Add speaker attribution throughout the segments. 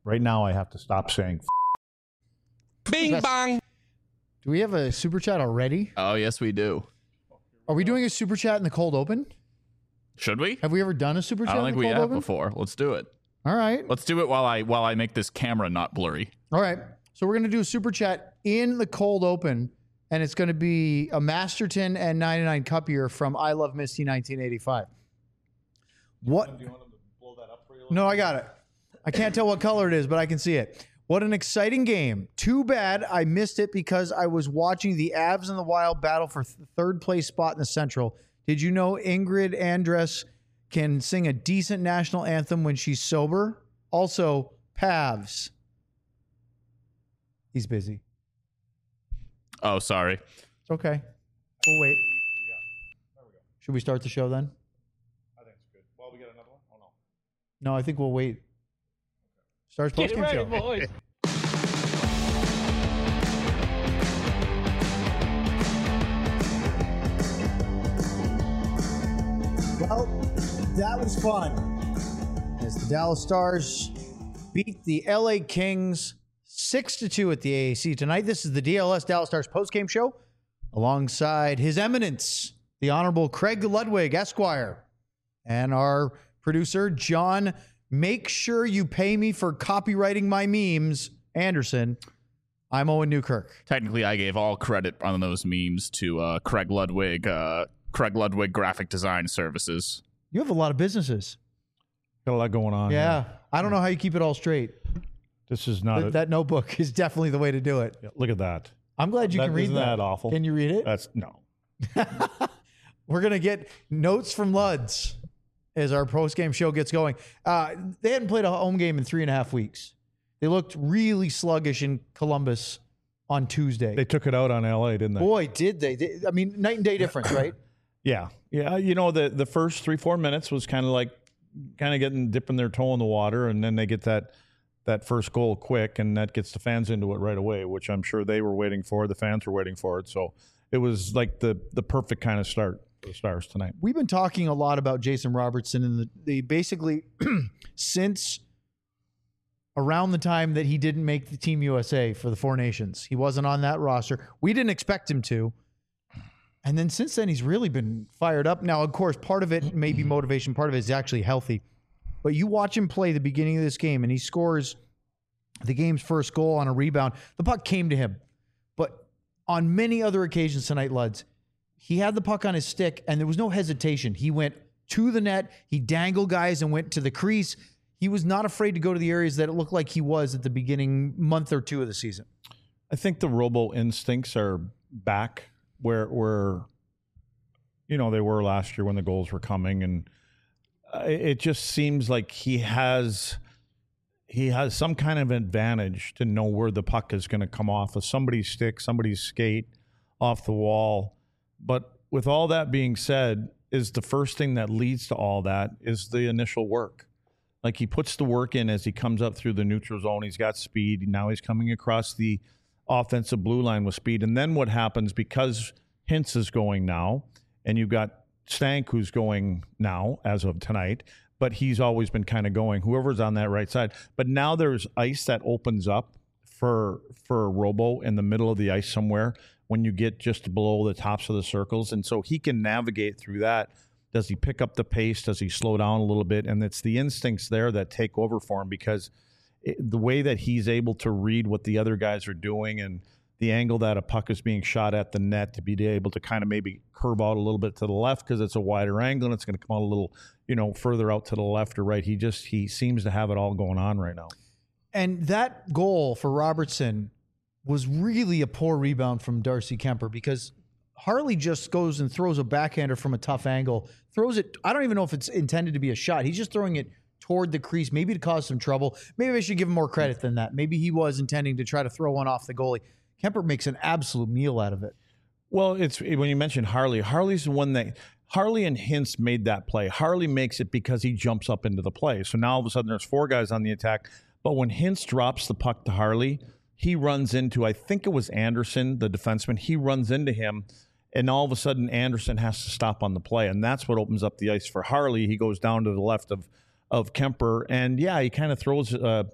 Speaker 1: right now I have to stop saying
Speaker 2: Bing bong.
Speaker 3: Do we have a super chat already?
Speaker 2: Oh, yes, we do.
Speaker 3: Are we doing a super chat in the cold open?
Speaker 2: Should we?
Speaker 3: Have we ever done a super chat
Speaker 2: I don't
Speaker 3: in
Speaker 2: think
Speaker 3: the
Speaker 2: we
Speaker 3: cold
Speaker 2: have
Speaker 3: open?
Speaker 2: before. Let's do it.
Speaker 3: All right.
Speaker 2: Let's do it while I make this camera not blurry.
Speaker 3: All right. So we're going to do a super chat in the cold open, and it's going to be a Masterton and 99 Cup year from I Love Misty 1985. What?
Speaker 1: Do you want him to blow that up for you?
Speaker 3: No, I got it. I can't tell what color it is, but I can see it. What an exciting game. Too bad I missed it because I was watching the Avs and the Wild battle for third place spot in the Central. Did you know Ingrid Andress can sing a decent national anthem when she's sober? Also, Pavs. He's busy.
Speaker 2: Oh, sorry.
Speaker 3: It's okay. We'll wait. Should we start the show then?
Speaker 1: I think it's good. Well, we got another one? Oh,
Speaker 3: No, I think we'll wait. Stars postgame show.
Speaker 4: boys.
Speaker 3: Well, that was fun. As the Dallas Stars beat the LA Kings 6-2 at the AAC tonight. This is the DLS Dallas Stars postgame show alongside His Eminence, the Honorable Craig Ludwig, Esquire, and our producer, John, make sure you pay me for copywriting my memes, Anderson. I'm Owen Newkirk.
Speaker 2: Technically, I gave all credit on those memes to Craig Ludwig Graphic Design Services.
Speaker 3: You have a lot of businesses.
Speaker 1: got a lot going on.
Speaker 3: Yeah.
Speaker 1: here.
Speaker 3: I don't know how you keep it all straight.
Speaker 1: This is not.
Speaker 3: That notebook is definitely the way to do it.
Speaker 1: Yeah, look at that.
Speaker 3: I'm glad you can read
Speaker 1: isn't that awful?
Speaker 3: Can you read it?
Speaker 1: That's no.
Speaker 3: We're going to get notes from Luds as our post-game show gets going. They hadn't played a home game in 3.5 weeks. They looked really sluggish in Columbus on Tuesday.
Speaker 1: They took it out on LA, didn't they?
Speaker 3: Boy, did they. I mean, night and day difference, right?
Speaker 1: Yeah. You know, the first 3-4 minutes was kind of dipping their toe in the water, and then they get that first goal quick, and that gets the fans into it right away, which I'm sure they were waiting for. The fans were waiting for it. So it was like the perfect kind of start for the Stars tonight.
Speaker 3: We've been talking a lot about Jason Robertson and the basically since around the time that he didn't make the Team USA for the Four Nations. He wasn't on that roster. We didn't expect him to. And then since then, he's really been fired up. Now, of course, part of it may be motivation. Part of it is actually healthy. But you watch him play the beginning of this game, and he scores the game's first goal on a rebound. The puck came to him. But on many other occasions tonight, Luds, he had the puck on his stick, and there was no hesitation. He went to the net. He dangled guys and went to the crease. He was not afraid to go to the areas that it looked like he was at the beginning month or two of the season.
Speaker 1: I think the robo instincts are back where they were last year when the goals were coming, and it just seems like he has some kind of advantage to know where the puck is going to come off of somebody's stick, somebody's skate, off the wall. But with all that being said, is the first thing that leads to all that is the initial work. Like, he puts the work in as he comes up through the neutral zone. He's got speed. Now he's coming across the offensive blue line with speed. And then what happens, because Hintz is going now, and you've got Stank who's going now as of tonight, but he's always been kind of going, whoever's on that right side. But now there's ice that opens up for Robo in the middle of the ice somewhere when you get just below the tops of the circles. And so he can navigate through that. Does he pick up the pace? Does he slow down a little bit? And it's the instincts there that take over for him, because the way that he's able to read what the other guys are doing and the angle that a puck is being shot at the net, to be able to kind of maybe curve out a little bit to the left because it's a wider angle and it's going to come out a little, further out to the left or right. He seems to have it all going on right now.
Speaker 3: And that goal for Robertson was really a poor rebound from Darcy Kemper, because Harley just goes and throws a backhander from a tough angle, throws it. I don't even know if it's intended to be a shot. He's just throwing it toward the crease, maybe to cause some trouble. Maybe I should give him more credit than that. Maybe he was intending to try to throw one off the goalie. Kemper makes an absolute meal out of it.
Speaker 1: Well, it's when you mentioned Harley's the one that Harley and Hintz made that play. Harley makes it because he jumps up into the play. So now all of a sudden there's four guys on the attack. But when Hintz drops the puck to Harley, he runs into, I think it was Anderson, the defenseman. He runs into him, and all of a sudden Anderson has to stop on the play. And that's what opens up the ice for Harley. He goes down to the left of Kemper. And, yeah, he kind of throws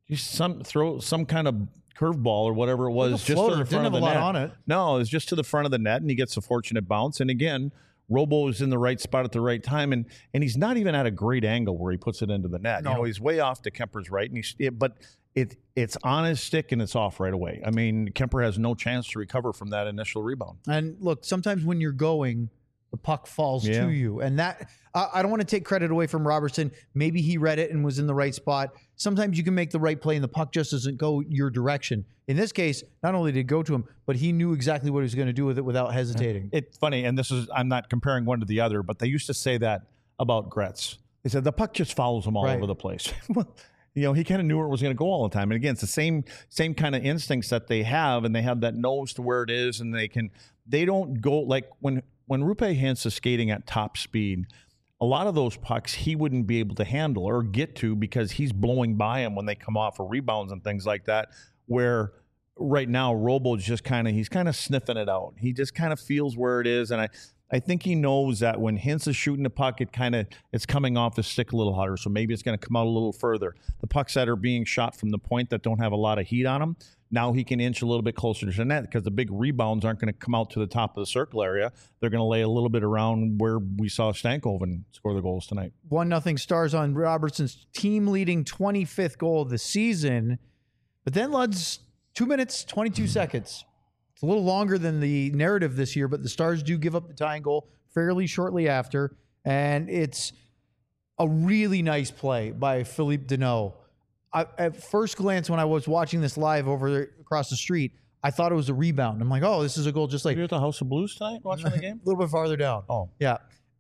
Speaker 1: just throw some kind of curveball or whatever it was,
Speaker 3: Like a
Speaker 1: just
Speaker 3: floater.
Speaker 1: to the front
Speaker 3: Didn't
Speaker 1: of the
Speaker 3: have a
Speaker 1: net.
Speaker 3: lot on it.
Speaker 1: No, it was just to the front of the net, and he gets a fortunate bounce. And again, Robo is in the right spot at the right time, and he's not even at a great angle where he puts it into the net.
Speaker 3: No.
Speaker 1: You know, he's way off to Kemper's right, and but it's on his stick and it's off right away. I mean, Kemper has no chance to recover from that initial rebound.
Speaker 3: And look, sometimes when you're going, the puck falls
Speaker 1: Yeah.
Speaker 3: to you. And that, I don't want to take credit away from Robertson. Maybe he read it and was in the right spot. Sometimes you can make the right play and the puck just doesn't go your direction. In this case, not only did it go to him, but he knew exactly what he was going to do with it without hesitating.
Speaker 1: It's funny, and I'm not comparing one to the other, but they used to say that about Gretz. They said the puck just follows him all
Speaker 3: Right.
Speaker 1: over the place. Well, you know, he kind of knew where it was going to go all the time. And again, it's the same kind of instincts that they have, and they have that nose to where it is, and they don't go like when Roope Hintz is skating at top speed. A lot of those pucks he wouldn't be able to handle or get to because he's blowing by him when they come off for rebounds and things like that. Where right now Robo's just he's kind of sniffing it out. He just kind of feels where it is, and I think he knows that when Hintz is shooting the puck, it's coming off his stick a little hotter, so maybe it's going to come out a little further. The pucks that are being shot from the point that don't have a lot of heat on them, now he can inch a little bit closer to the net because the big rebounds aren't going to come out to the top of the circle area. They're going to lay a little bit around where we saw Stankoven score the goals tonight.
Speaker 3: 1-0 Stars on Robertson's team-leading 25th goal of the season. But then Lud's 2 minutes, 22 seconds. It's a little longer than the narrative this year, but the Stars do give up the tying goal fairly shortly after. And it's a really nice play by Philippe Deneau. At first glance, when I was watching this live across the street, I thought it was a rebound. I'm like, oh, this is a goal just like
Speaker 1: You're at the House of Blues tonight watching the game?
Speaker 3: a little bit farther down.
Speaker 1: Oh.
Speaker 3: Yeah.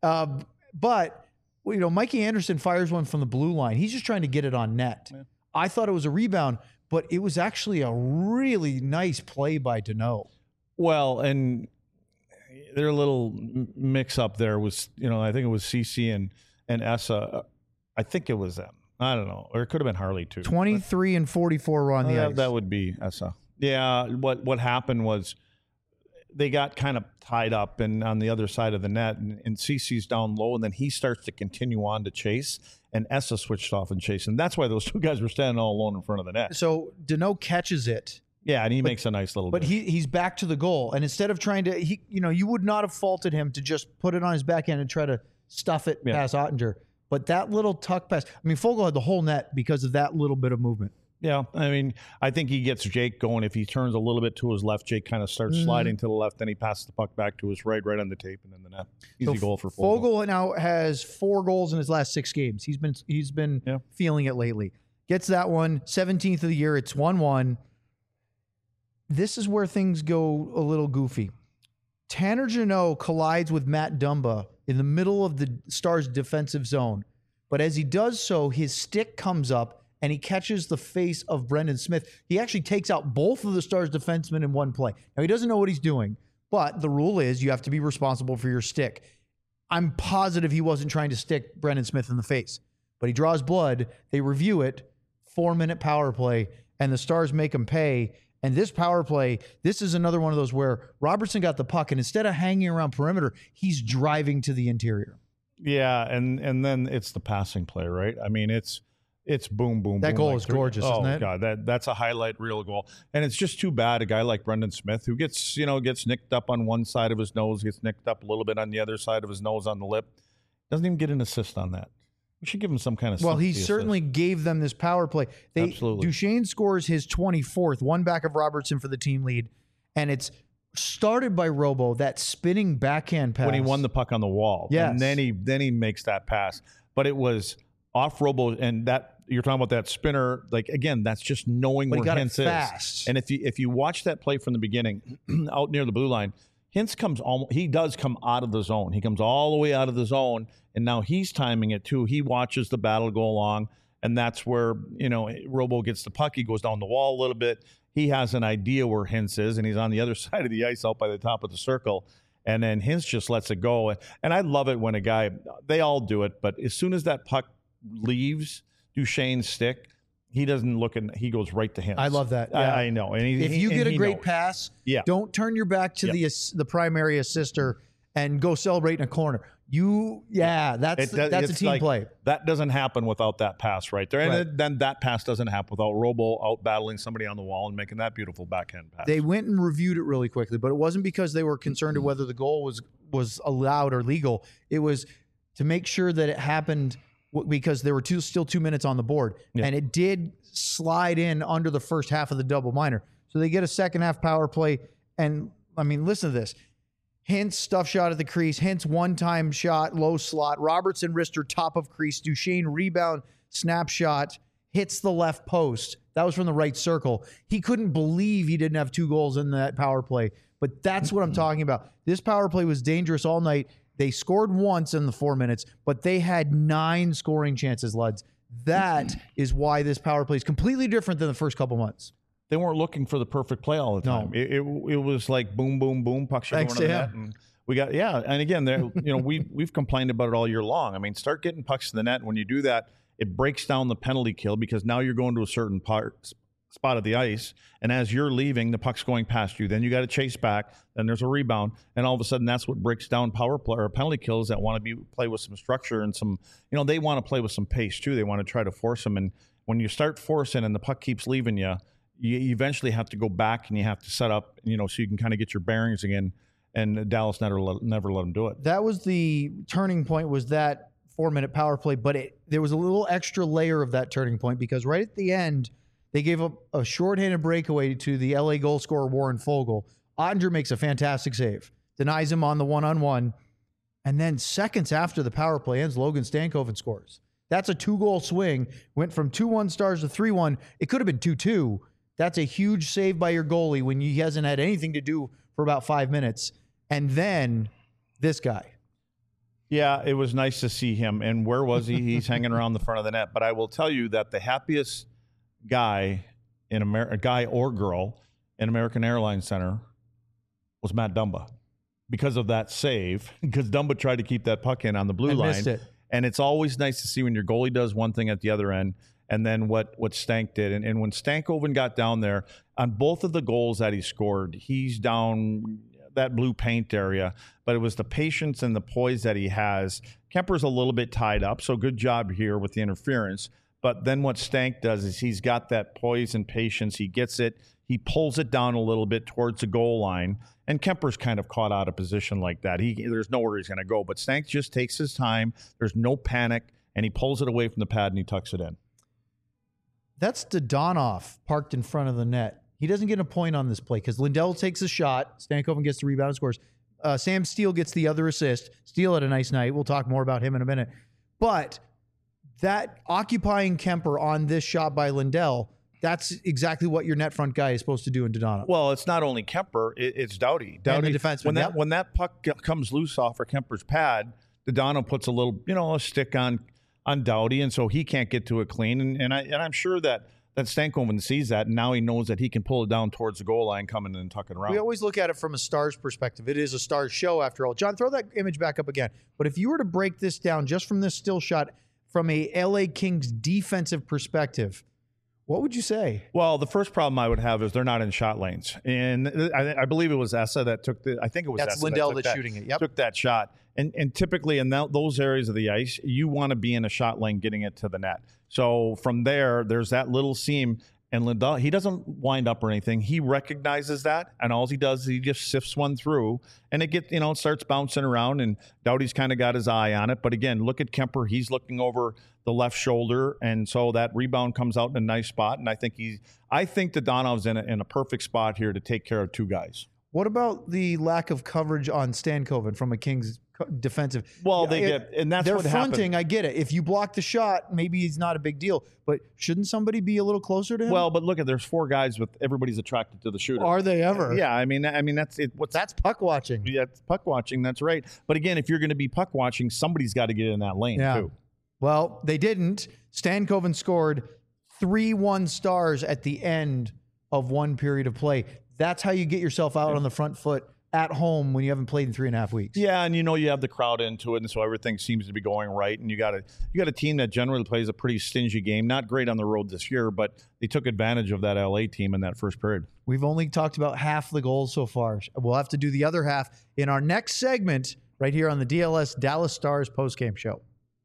Speaker 3: But, you know, Mikey Anderson fires one from the blue line. He's just trying to get it on net.
Speaker 1: Yeah.
Speaker 3: I thought it was a rebound, but it was actually a really nice play by Deneau.
Speaker 1: Well, and their little mix up there was, you know, I think it was CC and Essa. I think it was them. I don't know. Or it could have been Harley too.
Speaker 3: 23 and 44 were on the ice.
Speaker 1: That would be Essa. Yeah. What happened was they got kind of tied up and on the other side of the net, and CC's down low, and then he starts to continue on to chase, and Essa switched off and chased. And that's why those two guys were standing all alone in front of the net.
Speaker 3: So Deneau catches it.
Speaker 1: Yeah, and he makes a nice little
Speaker 3: But
Speaker 1: bit.
Speaker 3: he's back to the goal. And instead of trying to, you would not have faulted him to just put it on his backhand and try to stuff it past Ottinger. But that little tuck pass, I mean, Fogle had the whole net because of that little bit of movement.
Speaker 1: Yeah, I mean, I think he gets Jake going. If he turns a little bit to his left, Jake kind of starts sliding to the left, then he passes the puck back to his right on the tape, and then the net. Easy goal for Fogle.
Speaker 3: Fogle now has 4 goals in his last 6 games. He's been feeling it lately. Gets that one, 17th of the year. It's 1-1. This is where things go a little goofy. Tanner Jeannot collides with Matt Dumba in the middle of the Stars' defensive zone. But as he does so, his stick comes up and he catches the face of Brendan Smith. He actually takes out both of the Stars' defensemen in one play. Now, he doesn't know what he's doing, but the rule is you have to be responsible for your stick. I'm positive he wasn't trying to stick Brendan Smith in the face, but he draws blood. They review it, 4-minute power play, and the Stars make him pay. And this power play, this is another one of those where Robertson got the puck, and instead of hanging around perimeter, he's driving to the interior.
Speaker 1: Yeah, and then it's the passing play, right? I mean, it's boom, boom,
Speaker 3: That
Speaker 1: boom.
Speaker 3: goal
Speaker 1: like
Speaker 3: is gorgeous,
Speaker 1: oh,
Speaker 3: isn't it?
Speaker 1: God, that's a highlight reel goal. And it's just too bad a guy like Brendan Smith, who gets nicked up on one side of his nose, gets nicked up a little bit on the other side of his nose on the lip, doesn't even get an assist on that. We should give him some kind of
Speaker 3: Well, he
Speaker 1: sympathy
Speaker 3: certainly gave them this power play.
Speaker 1: Absolutely.
Speaker 3: Duchesne scores his 24th, one back of Robertson for the team lead, and it's started by Robo, that spinning backhand pass.
Speaker 1: when he won the puck on the wall.
Speaker 3: Yes.
Speaker 1: And then he makes that pass. But it was off Robo, and that you're talking about that spinner. Like, again, that's just knowing
Speaker 3: But he
Speaker 1: where
Speaker 3: got it
Speaker 1: Hintz
Speaker 3: fast.
Speaker 1: is. And if you watch that play from the beginning, out near the blue line, Hintz he does come out of the zone. He comes all the way out of the zone, and now he's timing it too. He watches the battle go along, and that's where, Robo gets the puck. He goes down the wall a little bit. He has an idea where Hintz is, and he's on the other side of the ice out by the top of the circle. And then Hintz just lets it go. And I love it when they all do it, but as soon as that puck leaves Duchesne's stick, he doesn't look and he goes right to Hintz.
Speaker 3: I love that. Yeah.
Speaker 1: I know. And
Speaker 3: If you get a great
Speaker 1: knows.
Speaker 3: pass,
Speaker 1: Yeah.
Speaker 3: don't turn your back to the primary assister and go celebrate in a corner. That's a
Speaker 1: It's
Speaker 3: team
Speaker 1: like,
Speaker 3: play.
Speaker 1: That doesn't happen without that pass right there. And
Speaker 3: Right.
Speaker 1: then that pass doesn't happen without Robo out battling somebody on the wall and making that beautiful backhand pass.
Speaker 3: They went and reviewed it really quickly, but it wasn't because they were concerned of whether the goal was allowed or legal. It was to make sure that it happened because there were still 2 minutes on the board.
Speaker 1: Yeah.
Speaker 3: And it did slide in under the first half of the double minor. So they get a second half power play. And I mean, listen to this. Hintz stuff shot at the crease. Hintz one-time shot, low slot. Robertson wrister top of crease. Duchesne rebound, snapshot, hits the left post. That was from the right circle. He couldn't believe he didn't have 2 goals in that power play. But that's what I'm talking about. This power play was dangerous all night. They scored once in the 4 minutes, but they had 9 scoring chances, Luds. That is why this power play is completely different than the first couple months.
Speaker 1: They weren't looking for the perfect play all the time.
Speaker 3: No.
Speaker 1: It was like boom, boom, boom, pucks are going
Speaker 3: Thanks
Speaker 1: to the
Speaker 3: to
Speaker 1: net.
Speaker 3: him.
Speaker 1: And we got, and again, we've complained about it all year long. I mean, start getting pucks to the net. When you do that, it breaks down the penalty kill because now you're going to a certain spot of the ice, and as you're leaving, the puck's going past you. Then you got to chase back. Then there's a rebound, and all of a sudden, that's what breaks down power play or penalty kills that want to play with some structure and some. They want to play with some pace too. They want to try to force them, and when you start forcing and the puck keeps leaving you, you eventually have to go back and you have to set up, so you can kind of get your bearings again. And Dallas never let them do it.
Speaker 3: That was the turning point. Was that 4-minute power play? But there was a little extra layer of that turning point because right at the end, they gave up a shorthanded breakaway to the LA goal scorer Warren Foegele. Ottinger makes a fantastic save, denies him on the one-on-one, and then seconds after the power play ends, Logan Stankoven scores. That's a 2-goal swing. Went from 2-1 Stars to 3-1. It could have been 2-2. That's a huge save by your goalie when he hasn't had anything to do for about 5 minutes. And then this guy.
Speaker 1: Yeah, it was nice to see him. And where was he? He's hanging around the front of the net. But I will tell you that the happiest guy guy or girl in American Airlines Center was Matt Dumba because of that save. Because Dumba tried to keep that puck in on the blue line.
Speaker 3: Missed it.
Speaker 1: And it's always nice to see when your goalie does one thing at the other end and then what Stank did. And when Stankoven got down there, on both of the goals that he scored, he's down that blue paint area, but it was the patience and the poise that he has. Kemper's a little bit tied up, so good job here with the interference. But then what Stank does is he's got that poise and patience. He gets it. He pulls it down a little bit towards the goal line, and Kemper's kind of caught out of position like that. There's nowhere he's going to go, but Stank just takes his time. There's no panic, and he pulls it away from the pad and he tucks it in.
Speaker 3: That's Dodonov parked in front of the net. He doesn't get a point on this play because Lindell takes a shot. Stankoven gets the rebound and scores. Sam Steele gets the other assist. Steele had a nice night. We'll talk more about him in a minute. But that occupying Kemper on this shot by Lindell, that's exactly what your net front guy is supposed to do in Dodonov.
Speaker 1: Well, it's not only Kemper, it's Doughty.
Speaker 3: And the defenseman.
Speaker 1: When that puck comes loose off of Kemper's pad, Dodonov puts a little, a stick on Doughty, and so he can't get to it clean. And I'm sure that Stankoven sees that, and now he knows that he can pull it down towards the goal line, coming and tuck it around.
Speaker 3: We always look at it from a Stars perspective. It is a Stars show, after all. John, throw that image back up again. But if you were to break this down just from this still shot from a LA Kings defensive perspective, what would you say?
Speaker 1: Well, the first problem I would have is they're not in shot lanes. And I believe it was Essa that took I think it was
Speaker 3: That's
Speaker 1: Essa
Speaker 3: Lindell
Speaker 1: that took
Speaker 3: that's shooting it. Yep.
Speaker 1: Took that shot. And typically in those areas of the ice, you want to be in a shot lane getting it to the net. So from there's that little seam. And Lindell, he doesn't wind up or anything. He recognizes that, and all he does is he just sifts one through, and it starts bouncing around, and Doughty's kind of got his eye on it. But again, look at Kemper. He's looking over the left shoulder, and so that rebound comes out in a nice spot. And I think Dodonov's in a perfect spot here to take care of 2 guys.
Speaker 3: What about the lack of coverage on Stankoven from a Kings defensive?
Speaker 1: Well, and that's
Speaker 3: they're
Speaker 1: what
Speaker 3: fronting.
Speaker 1: happened.
Speaker 3: I get it. If you block the shot, maybe it's not a big deal. But shouldn't somebody be a little closer to him?
Speaker 1: Well, but look there's 4 guys with everybody's attracted to the shooter.
Speaker 3: Are they ever?
Speaker 1: Yeah, I mean that's it.
Speaker 3: That's puck watching.
Speaker 1: Yeah, it's puck watching. That's right. But again, if you're going to be puck watching, somebody's got to get in that lane too.
Speaker 3: Well, they didn't. Stankoven scored 3-1 Stars at the end of one period of play. That's how you get yourself out on the front foot at home when you haven't played in 3.5 weeks.
Speaker 1: Yeah, and you have the crowd into it, and so everything seems to be going right. And you got a team that generally plays a pretty stingy game. Not great on the road this year, but they took advantage of that LA team in that first period.
Speaker 3: We've only talked about half the goals so far. We'll have to do the other half in our next segment right here on the DLS Dallas Stars postgame show.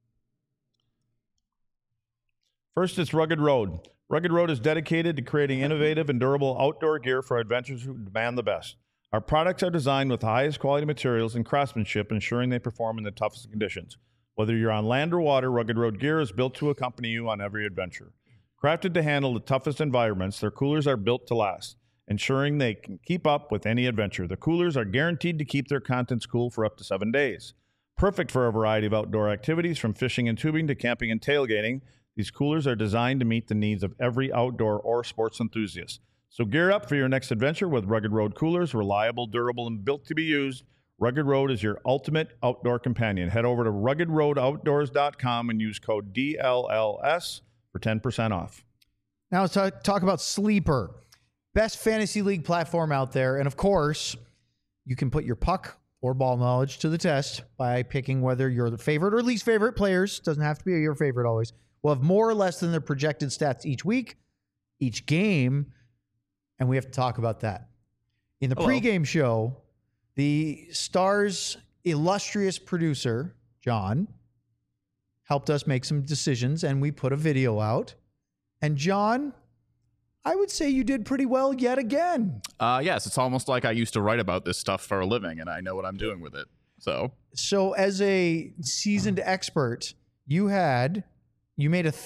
Speaker 1: First, it's Rugged Road. Rugged Road is dedicated to creating innovative and durable outdoor gear for adventurers who demand the best. Our products are designed with the highest quality materials and craftsmanship, ensuring they perform in the toughest conditions. Whether you're on land or water, Rugged Road gear is built to accompany you on every adventure. Crafted to handle the toughest environments, their coolers are built to last, ensuring they can keep up with any adventure. The coolers are guaranteed to keep their contents cool for up to 7 days. Perfect for a variety of outdoor activities, from fishing and tubing to camping and tailgating. These coolers are designed to meet the needs of every outdoor or sports enthusiast. So gear up for your next adventure with Rugged Road coolers, reliable, durable, and built to be used. Rugged Road is your ultimate outdoor companion. Head over to ruggedroadoutdoors.com and use code DLLS for 10% off.
Speaker 3: Now let's talk about Sleeper. Best fantasy league platform out there. And of course, you can put your puck or ball knowledge to the test by picking whether you're the favorite or least favorite players. Doesn't have to be your favorite always. Will have more or less than their projected stats each week, each game, and we have to talk about that. In the pregame show, the Stars' illustrious producer, John, helped us make some decisions, and we put a video out. And John, I would say you did pretty well yet again.
Speaker 2: Yes, it's almost like I used to write about this stuff for a living, and I know what I'm doing with it. So
Speaker 3: as a seasoned expert, you made a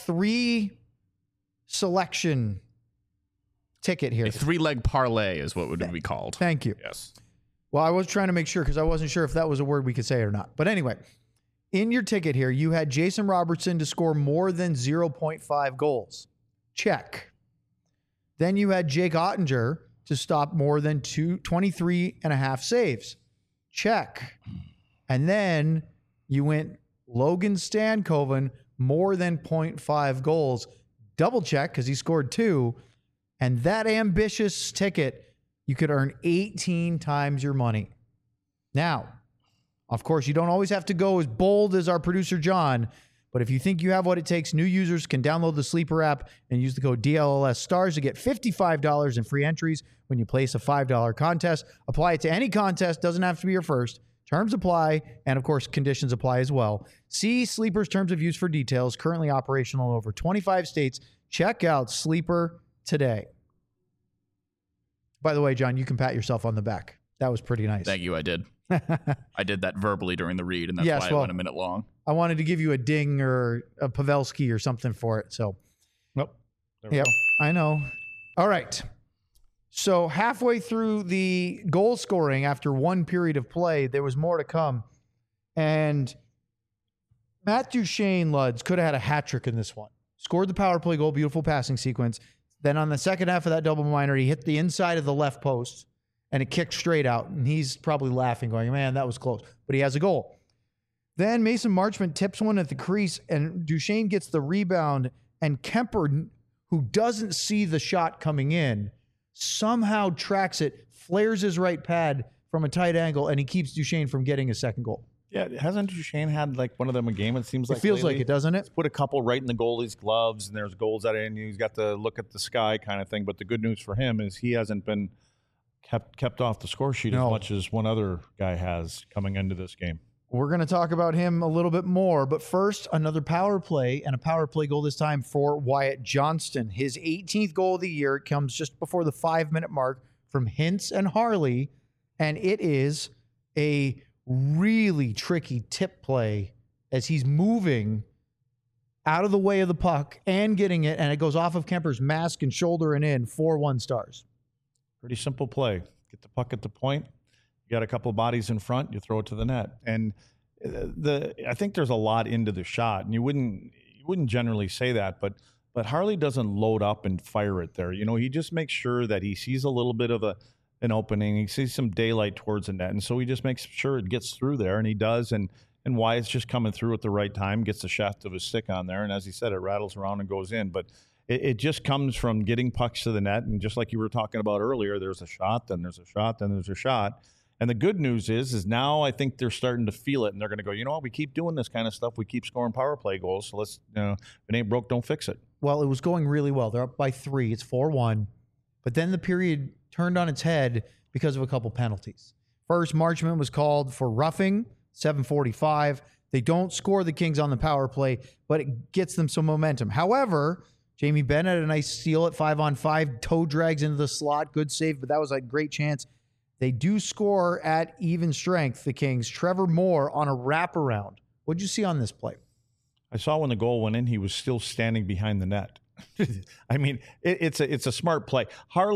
Speaker 3: 3-selection ticket here.
Speaker 2: A 3-leg parlay is what would be called.
Speaker 3: Thank you.
Speaker 2: Yes.
Speaker 3: Well, I was trying to make sure because I wasn't sure if that was a word we could say or not. But anyway, in your ticket here, you had Jason Robertson to score more than 0.5 goals. Check. Then you had Jake Ottinger to stop more than 23.5 saves. Check. And then you went Logan Stankoven, more than 0.5 goals. Double check because he scored 2. And that ambitious ticket, you could earn 18 times your money. Now, of course, you don't always have to go as bold as our producer, John. But if you think you have what it takes, new users can download the Sleeper app and use the code DLLS Stars to get $55 in free entries when you place a $5 contest. Apply it to any contest. Doesn't have to be your first. Terms apply, and of course, conditions apply as well. See Sleeper's terms of use for details. Currently operational in over 25 states. Check out Sleeper today. By the way, John, you can pat yourself on the back. That was pretty nice.
Speaker 2: Thank you, I did. I did that verbally during the read, and that's why it went a minute long.
Speaker 3: I wanted to give you a ding or a Pavelski or something for it. So,
Speaker 1: Nope.
Speaker 3: Yep, I know. All right. So halfway through the goal scoring after one period of play, there was more to come. And Matt Duchene, Luds, could have had a hat trick in this one. Scored the power play goal, beautiful passing sequence. Then on the second half of that double minor, he hit the inside of the left post, and it kicked straight out. And he's probably laughing, going, man, that was close. But he has a goal. Then Mason Marchment tips one at the crease, and Duchene gets the rebound, and Kemper, who doesn't see the shot coming in, somehow tracks it, flares his right pad from a tight angle, and he keeps Duchene from getting a second goal.
Speaker 1: Yeah, hasn't Duchene had like one of them a game? It seems like
Speaker 3: It feels
Speaker 1: lately?
Speaker 3: like it, doesn't it?
Speaker 1: He's put a couple right in the goalie's gloves, and there's goals that in. He's got to look at the sky kind of thing. But the good news for him is he hasn't been kept off the score sheet as much as one other guy has coming into this game.
Speaker 3: We're going to talk about him a little bit more, but first, another power play, and a power play goal this time for Wyatt Johnston. His 18th goal of the year comes just before the 5-minute mark from Hintz and Harley, and it is a really tricky tip play as he's moving out of the way of the puck and getting it, and it goes off of Kemper's mask and shoulder and in, 4-1 Stars.
Speaker 1: Pretty simple play. Get the puck at the point. You got a couple of bodies in front, you throw it to the net. And I think there's a lot into the shot, and you wouldn't generally say that, but Harley doesn't load up and fire it there. You know, he just makes sure that he sees a little bit of an opening. He sees some daylight towards the net, and so he just makes sure it gets through there, and he does. And Wyatt's just coming through at the right time, gets the shaft of his stick on there, and as he said, it rattles around and goes in. But it just comes from getting pucks to the net, and just like you were talking about earlier, there's a shot, then there's a shot, then there's a shot. And the good news is now I think they're starting to feel it, and they're going to go, you know what, we keep doing this kind of stuff. We keep scoring power play goals, so let's, if it ain't broke, don't fix it.
Speaker 3: Well, it was going really well. They're up by 3. It's 4-1. But then the period turned on its head because of a couple penalties. First, Marchment was called for roughing 7:45. They don't score the Kings on the power play, but it gets them some momentum. However, Jamie Benn had a nice steal at 5-on-5, toe drags into the slot, good save, but that was a great chance. They do score at even strength, the Kings. Trevor Moore on a wraparound. What'd you see on this play?
Speaker 1: I saw when the goal went in, he was still standing behind the net. I mean, it's a smart play.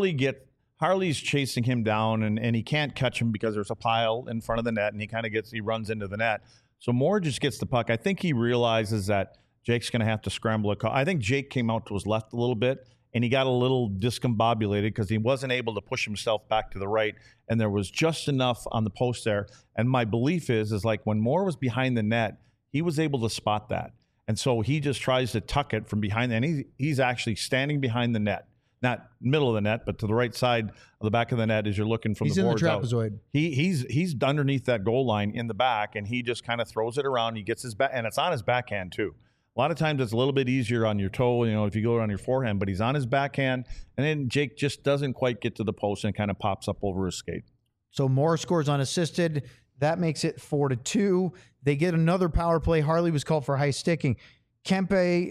Speaker 1: Harley's chasing him down, and he can't catch him because there's a pile in front of the net, and he runs into the net. So Moore just gets the puck. I think he realizes that Jake's going to have to scramble. I think Jake came out to his left a little bit, and he got a little discombobulated because he wasn't able to push himself back to the right, and there was just enough on the post there. And my belief is like when Moore was behind the net, he was able to spot that. And so he just tries to tuck it from behind, and he's actually standing behind the net. Not middle of the net, but to the right side of the back of the net as you're looking from the boards out. He's underneath that goal line in the back, and he just kind of throws it around. He gets his back, and it's on his backhand too. A lot of times it's a little bit easier on your toe, if you go around your forehand, but he's on his backhand, and then Jake just doesn't quite get to the post and kind of pops up over his skate. So
Speaker 3: Moore scores unassisted. That makes it 4-2. They get another power play. Harley was called for high sticking. Kempe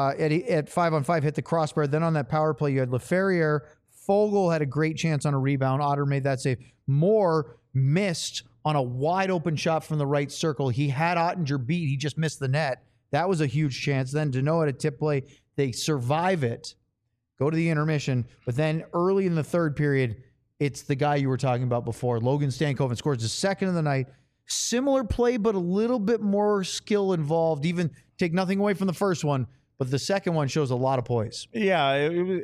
Speaker 3: at 5-on-5 hit the crossbar. Then on that power play, you had LaFerriere. Fogle had a great chance on a rebound. Otter made that save. Moore missed on a wide open shot from the right circle. He had Ottinger beat. He just missed the net. That was a huge chance. Then Deneau at a tip play. They survive it, go to the intermission. But then early in the third period, it's the guy you were talking about before. Logan Stankoven scores his second of the night. Similar play, but a little bit more skill involved. Even take nothing away from the first one, but the second one shows a lot of poise.
Speaker 1: Yeah,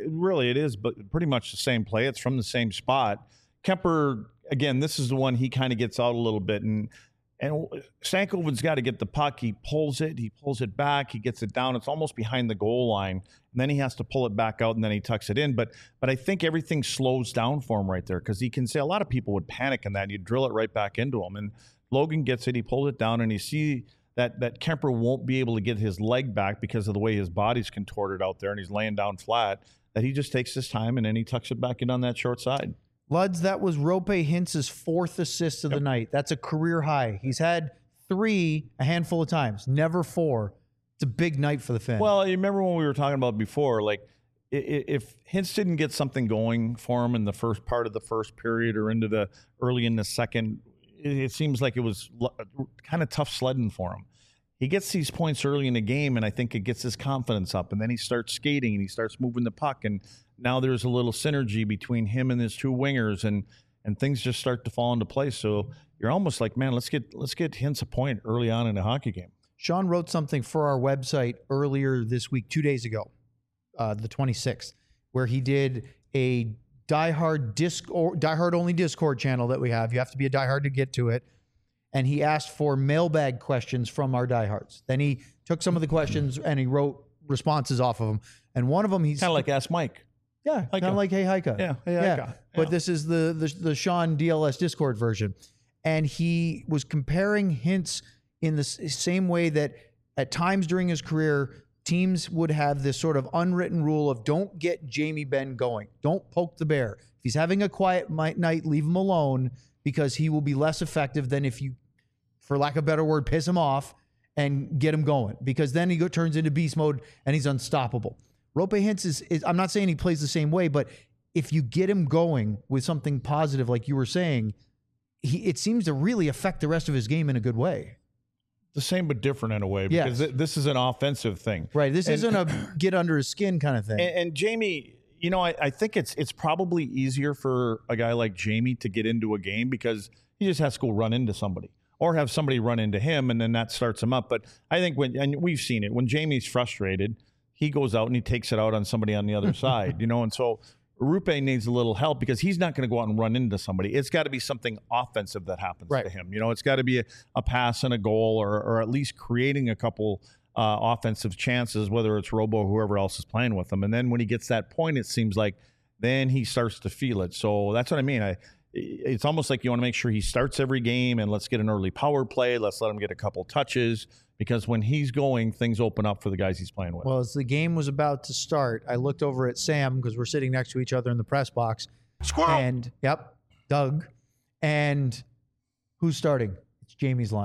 Speaker 1: it is, but pretty much the same play. It's from the same spot. Kemper, again, this is the one he kind of gets out a little bit, and Stankoven's got to get the puck. He pulls it back, he gets it down. It's almost behind the goal line, and then he has to pull it back out, and then he tucks it in. But I think everything slows down for him right there because he can say a lot of people would panic in that. You drill it right back into him, and Logan gets it, he pulls it down, and you see that Kemper won't be able to get his leg back because of the way his body's contorted out there, and he's laying down flat, that he just takes his time, and then he tucks it back in on that short side.
Speaker 3: Luds, that was Roope Hintz's fourth assist of the night. That's a career high. He's had 3 a handful of times, never 4. It's a big night for the Finn.
Speaker 1: Well, you remember when we were talking about before, like if Hintz didn't get something going for him in the first part of the first period or into the early in the second, it seems like it was kind of tough sledding for him. He gets these points early in the game, and I think it gets his confidence up, and then he starts skating, and he starts moving the puck, and now there's a little synergy between him and his 2 wingers, and things just start to fall into place. So you're almost like, man, let's get Hintz a point early on in a hockey game.
Speaker 3: Sean wrote something for our website earlier this week, 2 days ago, the 26th, where he did a diehard only Discord channel that we have. You have to be a diehard to get to it. And he asked for mailbag questions from our diehards. Then he took some of the questions and he wrote responses off of them. And one of them, he's
Speaker 1: kind of like Ask Mike.
Speaker 3: Yeah, kind of like Hey Heika.
Speaker 1: Yeah, Hey Heika. Yeah.
Speaker 3: But this is the Sean DLS Discord version. And he was comparing Hintz in the same way that at times during his career, teams would have this sort of unwritten rule of don't get Jamie Benn going. Don't poke the bear. If he's having a quiet night, leave him alone because he will be less effective than if you, for lack of a better word, piss him off and get him going. Because then he turns into beast mode and he's unstoppable. Roope Hintz is, I'm not saying he plays the same way, but if you get him going with something positive, like you were saying, it seems to really affect the rest of his game in a good way.
Speaker 1: The same but different in a way, because this is an offensive thing.
Speaker 3: Right. This isn't a get under his skin kind of thing.
Speaker 1: And Jamie, I think it's probably easier for a guy like Jamie to get into a game because he just has to go run into somebody or have somebody run into him, and then that starts him up. But I think and we've seen it, when Jamie's frustrated, he goes out and he takes it out on somebody on the other side, and so Roope needs a little help because he's not going to go out and run into somebody. It's got to be something offensive that happens to him. It's got to be a pass and a goal or at least creating a couple offensive chances, whether it's Robo or whoever else is playing with him. And then when he gets that point, it seems like then he starts to feel it. So that's what I mean. It's almost like you want to make sure he starts every game and let's get an early power play. Let's let him get a couple touches, because when he's going, things open up for the guys he's playing with.
Speaker 3: Well, as the game was about to start, I looked over at Sam because we're sitting next to each other in the press box.
Speaker 4: Squirrel.
Speaker 3: And, Doug. And who's starting? It's Jamie's line.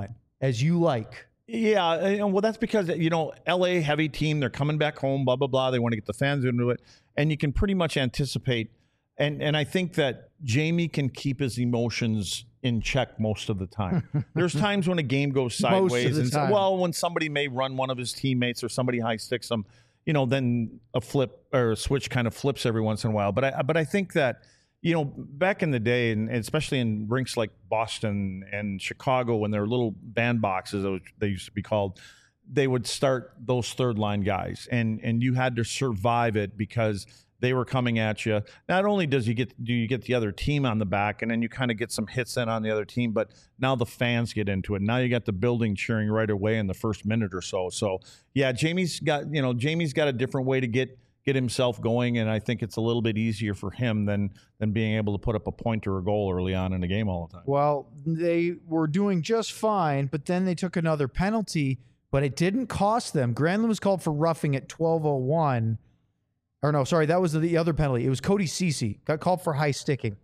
Speaker 3: as you like.
Speaker 1: Yeah, and well, that's because LA heavy team. They're coming back home. Blah blah blah. They want to get the fans into it, and you can pretty much anticipate. And I think that Jamie can keep his emotions in check most of the time. There's times when a game goes sideways, and when somebody may run one of his teammates or somebody high sticks them, then a flip or a switch kind of flips every once in a while. But I think that back in the day, and especially in rinks like Boston and Chicago, when there were little bandboxes, they used to be called, they would start those third line guys, and you had to survive it because they were coming at you. Not only do you get the other team on the back, and then you kind of get some hits in on the other team, but now the fans get into it. Now you got the building cheering right away in the first minute or so. So yeah, Jamie's got a different way to get himself going, and I think it's a little bit easier for him than being able to put up a point or a goal early on in the game all the time.
Speaker 3: Well, they were doing just fine, but then they took another penalty, but it didn't cost them. Granlund was called for roughing at 12:01. Or no, sorry, that was the other penalty. It was Cody Ceci, got called for high sticking.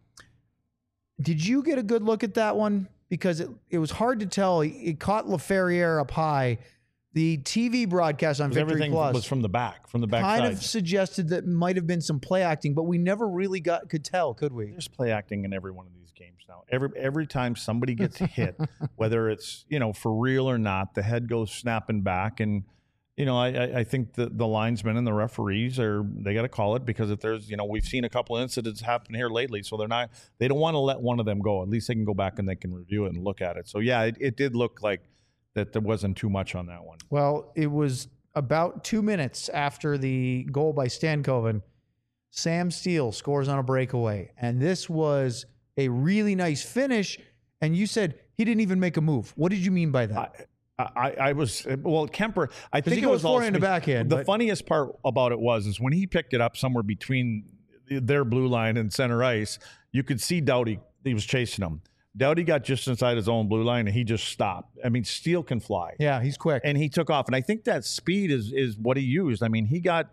Speaker 3: Did you get a good look at that one? Because it was hard to tell. It caught LaFerriere up high. The TV broadcast on Victory
Speaker 1: everything
Speaker 3: Plus
Speaker 1: was from the back
Speaker 3: kind
Speaker 1: side.
Speaker 3: of suggested that might have been some play acting, but we never really could tell, could we?
Speaker 1: There's play acting in every one of these games now. Every time somebody gets hit, whether it's for real or not, the head goes snapping back, and I think the linesmen and the referees they got to call it, because if there's we've seen a couple of incidents happen here lately, so they don't want to let one of them go. At least they can go back and they can review it and look at it. So yeah, it did look like that there wasn't too much on that one.
Speaker 3: Well, it was about 2 minutes after the goal by Stankoven. Sam Steele scores on a breakaway, and this was a really nice finish. And you said he didn't even make a move. What did you mean by that?
Speaker 1: I was Kemper. I think
Speaker 3: he
Speaker 1: it was
Speaker 3: goes forehand to backhand.
Speaker 1: The funniest part about it was when he picked it up somewhere between their blue line and center ice, you could see Doughty. He was chasing him. Doughty got just inside his own blue line, and he just stopped. I mean, Steele can fly.
Speaker 3: Yeah, he's quick,
Speaker 1: and he took off. And I think that speed is what he used. I mean, he got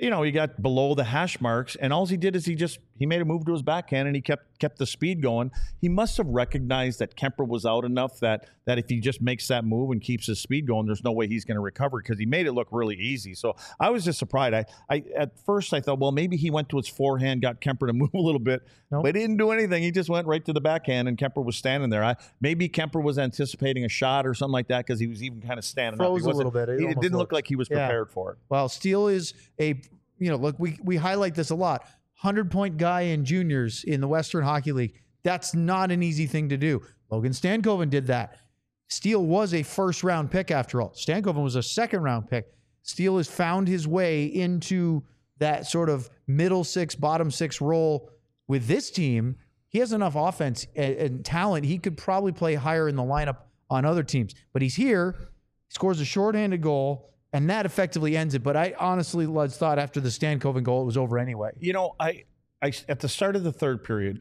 Speaker 1: below the hash marks, and all he did is he made a move to his backhand, and he kept the speed going. He must have recognized that Kemper was out enough that if he just makes that move and keeps his speed going, there's no way he's going to recover, because he made it look really easy. So I was just surprised. I at first I thought, well, maybe he went to his forehand, got Kemper to move a little bit, but he didn't do anything. He just went right to the backhand, and Kemper was standing there. Maybe Kemper was anticipating a shot or something like that, because he was even kind of standing
Speaker 3: froze
Speaker 1: up.
Speaker 3: A little bit.
Speaker 1: It didn't look like he was prepared for it.
Speaker 3: Well, Steele is look, we highlight this a lot. 100-point guy in juniors in the Western Hockey League. That's not an easy thing to do. Logan Stankoven did that. Steele was a first-round pick after all. Stankoven was a second-round pick. Steele has found his way into that sort of middle six, bottom six role with this team. He has enough offense and talent. He could probably play higher in the lineup on other teams. But he's here, scores a shorthanded goal, and that effectively ends it. But I honestly, Luds, thought after the Stankoven goal, it was over anyway.
Speaker 1: I at the start of the third period,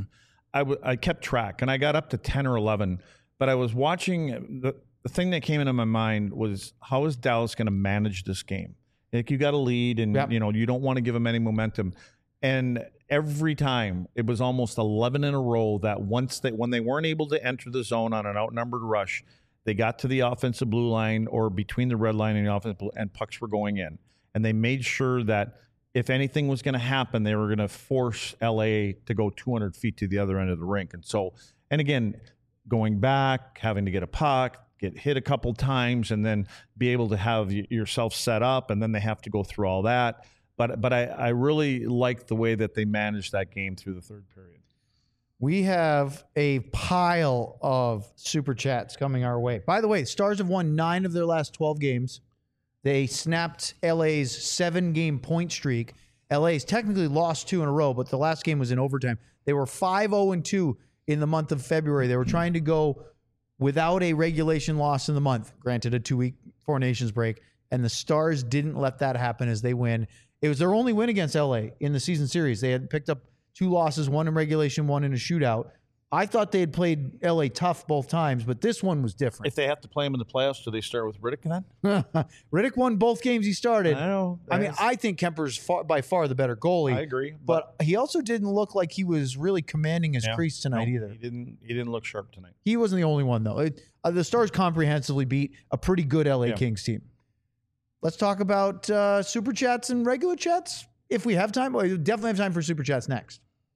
Speaker 1: I kept track, and I got up to 10 or 11. But I was watching, the thing that came into my mind was, how is Dallas going to manage this game? Like, you got a lead, and you don't want to give them any momentum. And every time, it was almost 11 in a row that when they weren't able to enter the zone on an outnumbered rush, they got to the offensive blue line or between the red line and the offensive blue, and pucks were going in. And they made sure that if anything was going to happen, they were going to force LA to go 200 feet to the other end of the rink. And again, going back, having to get a puck, get hit a couple times, and then be able to have yourself set up, and then they have to go through all that. But I really liked the way that they managed that game through the third period.
Speaker 3: We have a pile of super chats coming our way. By the way, Stars have won 9 of their last 12 games. They snapped LA's 7-game point streak. LA's technically lost 2 in a row, but the last game was in overtime. They were 5-0-2 in the month of February. They were trying to go without a regulation loss in the month, granted a 2-week Four Nations break, and the Stars didn't let that happen as they win. It was their only win against LA in the season series. They had picked up 2 losses, 1 in regulation, 1 in a shootout. I thought they had played LA tough both times, but this one was different.
Speaker 1: If they have to play him in the playoffs, do they start with Riddick then?
Speaker 3: Riddick won both games he started.
Speaker 1: I know.
Speaker 3: I mean, I think Kemper's by far the better goalie.
Speaker 1: I agree.
Speaker 3: But he also didn't look like he was really commanding his crease tonight either.
Speaker 1: He didn't look sharp tonight.
Speaker 3: He wasn't the only one, though. The Stars comprehensively beat a pretty good LA Kings team. Let's talk about Super Chats and regular chats. If we have time, we definitely have time for Super Chats next.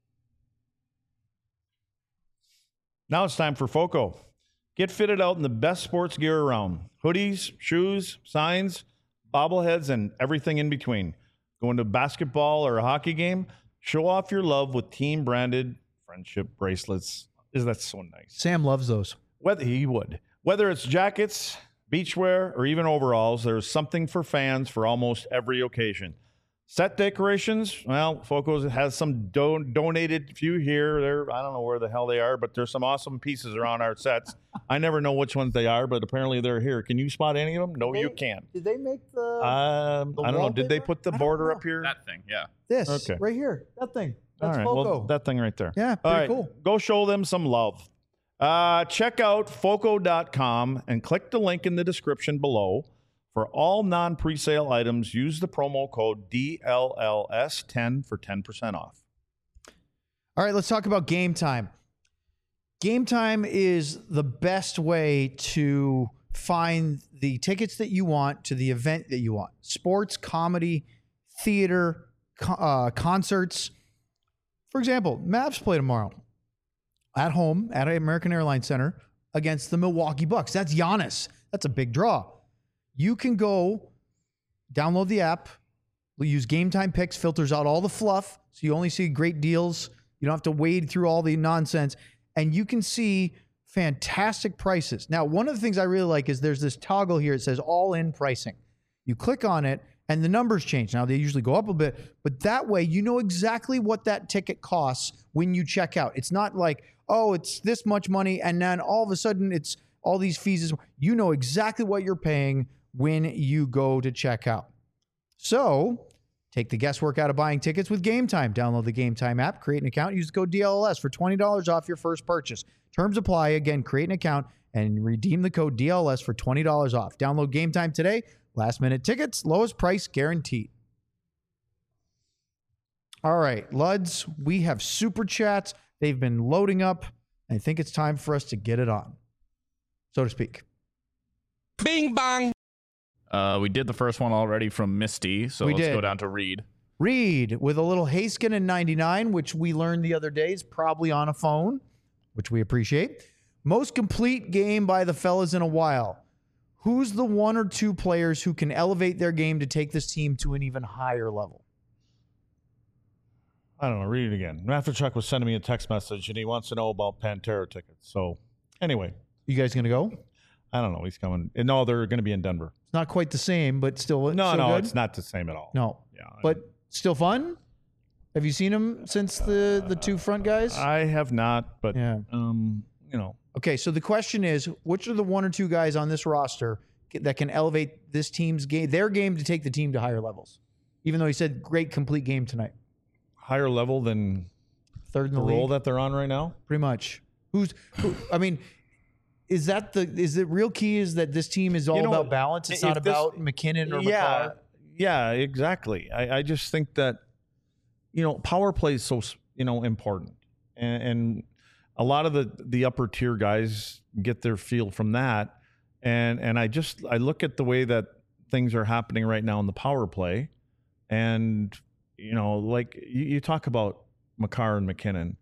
Speaker 1: Now it's time for FOCO. Get fitted out in the best sports gear around. Hoodies, shoes, signs, bobbleheads, and everything in between. Going to a basketball or a hockey game? Show off your love with team-branded friendship bracelets. Isn't that so nice?
Speaker 3: Sam loves those.
Speaker 1: Whether it's jackets, beachwear, or even overalls, there's something for fans for almost every occasion. Set decorations, well, FOCO has some donated few here. I don't know where the hell they are, but there's some awesome pieces around our sets. I never know which ones they are, but apparently they're here. Can you spot any of them? No, you can't.
Speaker 3: Did they make the
Speaker 1: I don't know. Did they put the border up here?
Speaker 2: That thing, yeah.
Speaker 3: This
Speaker 1: Okay.
Speaker 3: right here. That thing. That's
Speaker 1: All right,
Speaker 3: FOCO.
Speaker 1: well, that thing right there.
Speaker 3: Yeah,
Speaker 1: All
Speaker 3: pretty
Speaker 1: right,
Speaker 3: cool.
Speaker 1: Go show them some love. Check out FOCO.com and click the link in the description below. For all non-presale items, use the promo code DLLS10 for 10% off.
Speaker 3: All right, let's talk about Game Time. Game Time is the best way to find the tickets that you want to the event that you want. Sports, comedy, theater, concerts. For example, Mavs play tomorrow at home at American Airlines Center against the Milwaukee Bucks. That's Giannis. That's a big draw. You can go download the app. We'll use Game Time Picks, filters out all the fluff, so you only see great deals. You don't have to wade through all the nonsense, and you can see fantastic prices. Now, one of the things I really like is there's this toggle here. It says all-in pricing. You click on it, and the numbers change. Now, they usually go up a bit, but that way you know exactly what that ticket costs when you check out. It's not like, oh, it's this much money, and then all of a sudden it's all these fees. You know exactly what you're paying when you go to check out. So take the guesswork out of buying tickets with Game Time. Download the Game Time app, create an account, use the code DLLS for $20 off your first purchase. Terms apply. Again, create an account and redeem the code DLLS for $20 off. Download Game Time today. Last minute tickets, lowest price guaranteed. All right, Luds, we have Super Chats. They've been loading up. I think it's time for us to get it on, so to speak.
Speaker 4: Bing bong.
Speaker 2: We did the first one already from Misty, so let's go down to Reed.
Speaker 3: Reed with a little Haskin in 99, which we learned the other day is probably on a phone, which we appreciate. Most complete game by the fellas in a while. Who's the one or two players who can elevate their game to take this team to an even higher level?
Speaker 1: I don't know. Read it again. Chuck was sending me a text message, and he wants to know about Pantera tickets. So, anyway.
Speaker 3: You guys going to go?
Speaker 1: I don't know. He's coming. No, they're going to be in Denver.
Speaker 3: It's not quite the same, but still
Speaker 1: No,
Speaker 3: good?
Speaker 1: it's not the same at all.
Speaker 3: No.
Speaker 1: Yeah,
Speaker 3: but still fun? Have you seen them since the two front guys?
Speaker 1: I have not, but,
Speaker 3: Yeah.
Speaker 1: you know.
Speaker 3: Okay, so the question is, which are the one or two guys on this roster that can elevate this team's game, their game, to take the team to higher levels? Even though he said great complete game tonight.
Speaker 1: Higher level than
Speaker 3: Third in
Speaker 1: the
Speaker 3: the
Speaker 1: role
Speaker 3: league,
Speaker 1: that they're on right now?
Speaker 3: pretty much. I mean, is the real key is that this team is all about balance? It's not about McKinnon or McCarr?
Speaker 1: Yeah, exactly. I just think that, power play is so, important. And a lot of the upper tier guys get their feel from that. And I look at the way that things are happening right now in the power play. And, like you talk about McCarr and McKinnon.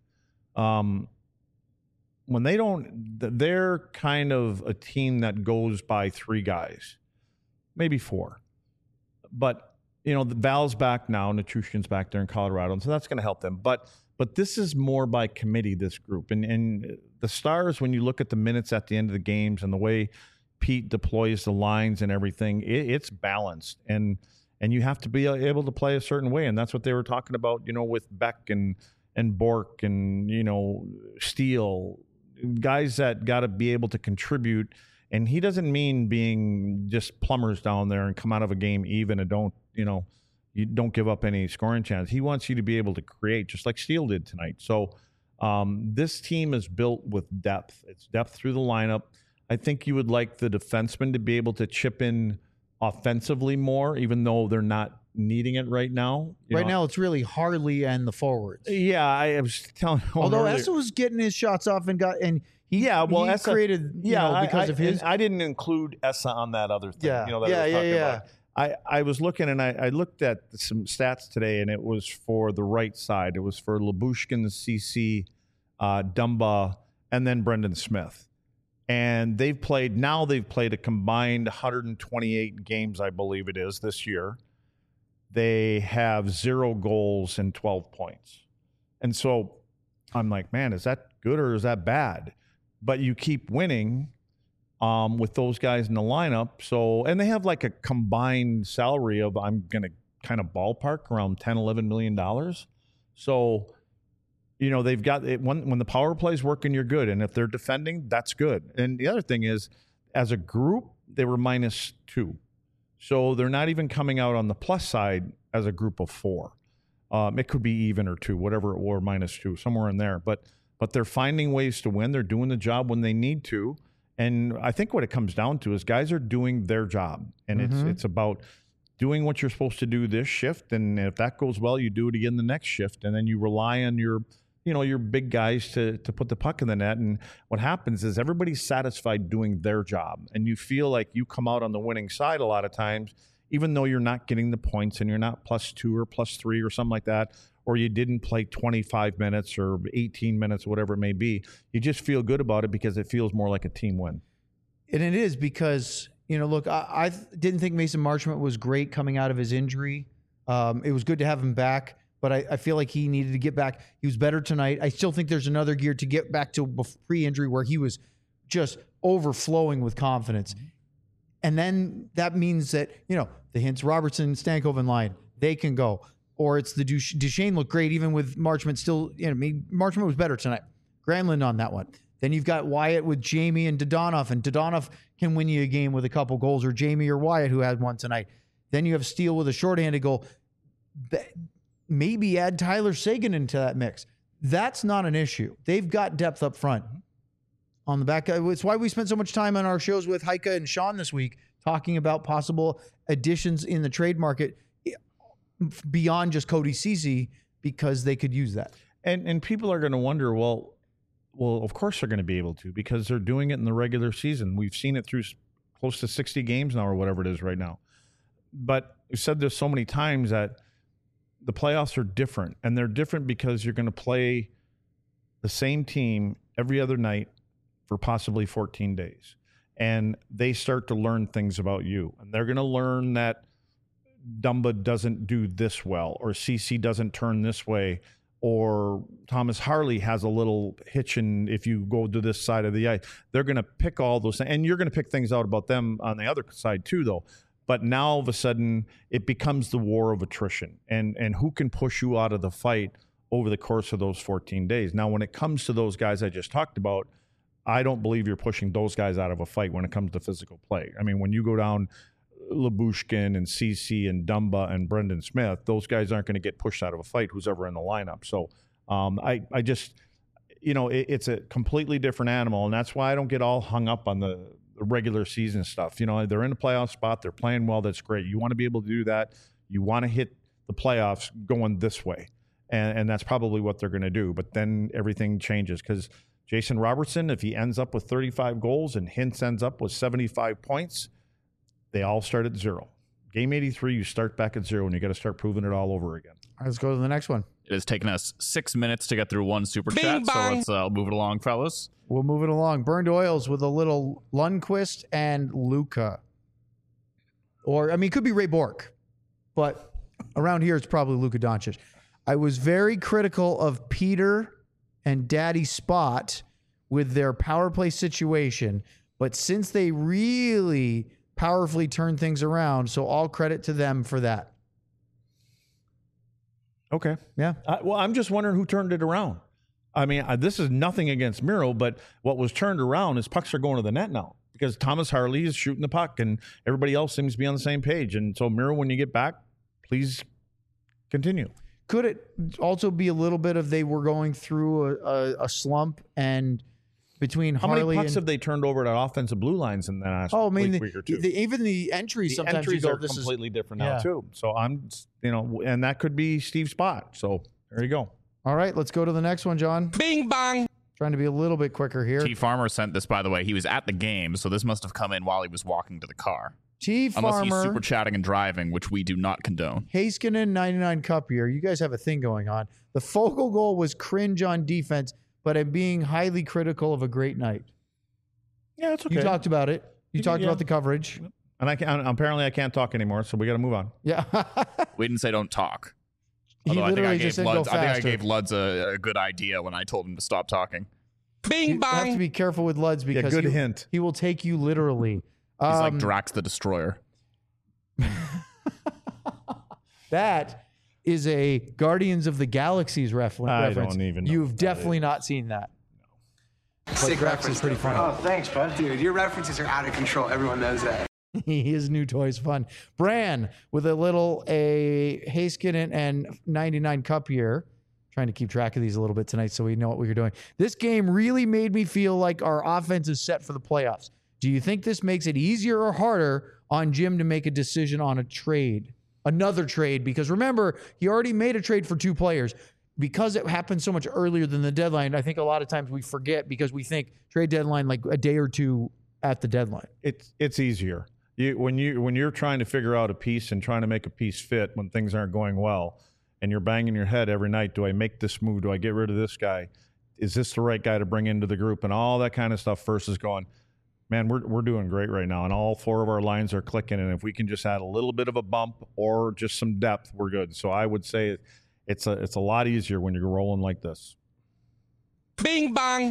Speaker 1: When they're kind of a team that goes by three guys, maybe four. But, the Val's back now, Nichushkin's back there in Colorado, and so that's going to help them. But this is more by committee, this group. And the Stars, when you look at the minutes at the end of the games and the way Pete deploys the lines and everything, it's balanced. And you have to be able to play a certain way. And that's what they were talking about, with Beck and Bork and, Steele, guys that got to be able to contribute. And he doesn't mean being just plumbers down there and come out of a game even and you don't give up any scoring chance. He wants you to be able to create just like Steele did tonight. So This team is built with depth. It's depth through the lineup. I think you would like the defensemen to be able to chip in offensively more, even though they're not needing it right now.
Speaker 3: Right now, it's really Harley and the forwards.
Speaker 1: Yeah, I was telling.
Speaker 3: Although Essa was getting his shots off and he
Speaker 1: Essa
Speaker 3: created because of his.
Speaker 1: I didn't include Essa on that other thing.
Speaker 3: Yeah,
Speaker 1: that I was talking about. I was looking and I looked at some stats today, and it was for the right side. It was for Lyubushkin, CC, Dumba, and then Brendan Smith. And they've played a combined 128 games, I believe it is, this year. They have 0 goals and 12 points. And so I'm like, man, is that good or is that bad? But you keep winning with those guys in the lineup. So, and they have like a combined salary of, I'm going to kind of ballpark around $10, $11 million. So, they've got it when the power play is working, you're good. And if they're defending, that's good. And the other thing is, as a group, they were -2. So they're not even coming out on the plus side as a group of 4. It could be even or 2, whatever it were, -2, somewhere in there. But they're finding ways to win. They're doing the job when they need to. And I think what it comes down to is guys are doing their job. And it's about doing what you're supposed to do this shift. And if that goes well, you do it again the next shift. And then you rely on your big guys to put the puck in the net. And what happens is everybody's satisfied doing their job. And you feel like you come out on the winning side a lot of times, even though you're not getting the points and you're not +2 or +3 or something like that, or you didn't play 25 minutes or 18 minutes, whatever it may be. You just feel good about it because it feels more like a team win.
Speaker 3: And it is because, look, I didn't think Mason Marchment was great coming out of his injury. It was good to have him back. But I feel like he needed to get back. He was better tonight. I still think there's another gear to get back to pre-injury where he was just overflowing with confidence. And then that means that, the Hintz, Robertson, Stankoven line, they can go. Or it's the Duchesne looked great even with Marchment still. Marchment was better tonight. Granlund on that one. Then you've got Wyatt with Jamie and Dodonov. And Dodonov can win you a game with a couple goals, or Jamie or Wyatt who had one tonight. Then you have Steele with a shorthanded goal. Maybe add Tyler Seguin into that mix. That's not an issue. They've got depth up front. On the back, it's why we spent so much time on our shows with Heike and Sean this week talking about possible additions in the trade market beyond just Cody Ceci, because they could use that.
Speaker 1: And people are going to wonder, well, of course they're going to be able to, because they're doing it in the regular season. We've seen it through close to 60 games now or whatever it is right now. But we've said this so many times that the playoffs are different, and they're different because you're going to play the same team every other night for possibly 14 days. And they start to learn things about you. And they're going to learn that Dumba doesn't do this well, or CC doesn't turn this way, or Thomas Harley has a little hitch in if you go to this side of the ice. They're going to pick all those things. And you're going to pick things out about them on the other side too, though. But now all of a sudden it becomes the war of attrition and who can push you out of the fight over the course of those 14 days. Now, when it comes to those guys I just talked about, I don't believe you're pushing those guys out of a fight when it comes to physical play. I mean, when you go down Lyubushkin and CC and Dumba and Brendan Smith, those guys aren't going to get pushed out of a fight who's ever in the lineup. So I just, it's a completely different animal. And that's why I don't get all hung up on the regular season stuff. They're in a playoff spot. They're playing well. That's great. You want to be able to do that. You want to hit the playoffs going this way. And that's probably what they're going to do. But then everything changes because Jason Robertson, if he ends up with 35 goals and Hintz ends up with 75 points, they all start at 0. Game 83, you start back at 0, and you got to start proving it all over again.
Speaker 3: All right, let's go to the next one.
Speaker 2: It has taken us 6 minutes to get through one super
Speaker 4: Bing
Speaker 2: chat,
Speaker 4: bong.
Speaker 2: so let's move it along, fellas.
Speaker 3: We'll move it along. Burned Oils with a little Lundqvist and Luka. Or, it could be Ray Bork, but around here it's probably Luka Doncic. I was very critical of Peter and Daddy Spot with their power play situation, but since they really powerfully turned things around, so all credit to them for that.
Speaker 1: Okay.
Speaker 3: Yeah.
Speaker 1: Well, I'm just wondering who turned it around. This is nothing against Miro, but what was turned around is pucks are going to the net now because Thomas Harley is shooting the puck and everybody else seems to be on the same page. And so, Miro, when you get back, please continue.
Speaker 3: Could it also be a little bit of they were going through a slump and between
Speaker 1: How
Speaker 3: Harley
Speaker 1: many pucks
Speaker 3: and
Speaker 1: have they turned over to offensive blue lines in the last week or two?
Speaker 3: even the entries
Speaker 1: The
Speaker 3: sometimes
Speaker 1: entries
Speaker 3: you go,
Speaker 1: are
Speaker 3: this
Speaker 1: completely different
Speaker 3: yeah.
Speaker 1: now too. So I'm, and that could be Steve's spot. So there you go.
Speaker 3: All right, let's go to the next one, John.
Speaker 4: Bing bong.
Speaker 3: Trying to be a little bit quicker here.
Speaker 2: T Farmer sent this, by the way. He was at the game, so this must have come in while he was walking to the car.
Speaker 3: T
Speaker 2: Unless he's
Speaker 3: Farmer,
Speaker 2: super chatting and driving, which we do not condone.
Speaker 3: Heiskanen, 99 Cup year. You guys have a thing going on. The Fogle goal was cringe on defense, but I'm being highly critical of a great night.
Speaker 1: Yeah, it's okay.
Speaker 3: You talked about it. You talked
Speaker 1: yeah.
Speaker 3: about the coverage.
Speaker 1: And apparently I can't talk anymore, so we got to move on.
Speaker 3: Yeah.
Speaker 2: We didn't say don't talk.
Speaker 3: He
Speaker 2: Although
Speaker 3: literally just said go
Speaker 2: I think I
Speaker 3: faster.
Speaker 2: gave Luds a good idea when I told him to stop talking.
Speaker 4: Bing
Speaker 3: You have to
Speaker 4: bong.
Speaker 3: be careful with Luds because
Speaker 1: good hint.
Speaker 3: he will take you literally.
Speaker 2: He's like Drax the Destroyer.
Speaker 3: That is a Guardians of the Galaxies reference.
Speaker 1: I don't even know
Speaker 3: You've
Speaker 1: what that
Speaker 3: definitely not seen that.
Speaker 5: Sick
Speaker 3: Drax
Speaker 5: reference,
Speaker 3: is pretty
Speaker 5: though.
Speaker 3: funny.
Speaker 5: Oh, thanks, bud. Dude, your references are out of control. Everyone knows that.
Speaker 3: His new toy's fun. Bran with a Heiskanen and 99 Cup year. Trying to keep track of these a little bit tonight so we know what we're doing. This game really made me feel like our offense is set for the playoffs. Do you think this makes it easier or harder on Jim to make a decision on a trade? Another trade? Because remember, he already made a trade for 2 players. Because it happened so much earlier than the deadline, I think a lot of times we forget because we think trade deadline like a day or two at the deadline.
Speaker 1: It's easier. When you're trying to figure out a piece and trying to make a piece fit when things aren't going well, and you're banging your head every night, do I make this move? Do I get rid of this guy? Is this the right guy to bring into the group? And all that kind of stuff versus going, man, we're doing great right now. And all 4 of our lines are clicking. And if we can just add a little bit of a bump or just some depth, we're good. So I would say it's a lot easier when you're rolling like this.
Speaker 4: Bing bong.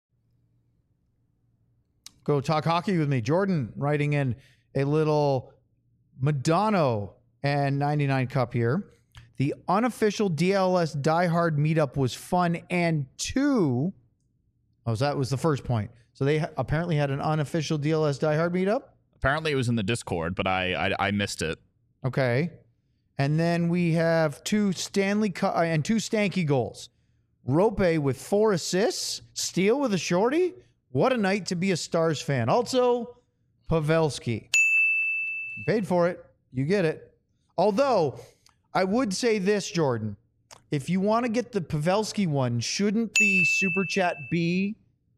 Speaker 3: Go talk hockey with me. Jordan writing in a little Madonna and 99 Cup here. The unofficial DLS diehard meetup was fun and that was the first point. So they apparently had an unofficial DLS diehard meetup.
Speaker 2: Apparently it was in the Discord, but I missed it.
Speaker 3: Okay. And then we have 2 Stanley Cup and 2 Stanky goals. Rope with 4 assists. Steele with a shorty. What a night to be a Stars fan. Also, Pavelski. Paid for it. You get it. Although, I would say this, Jordan. If you want to get the Pavelski one, shouldn't the Super Chat be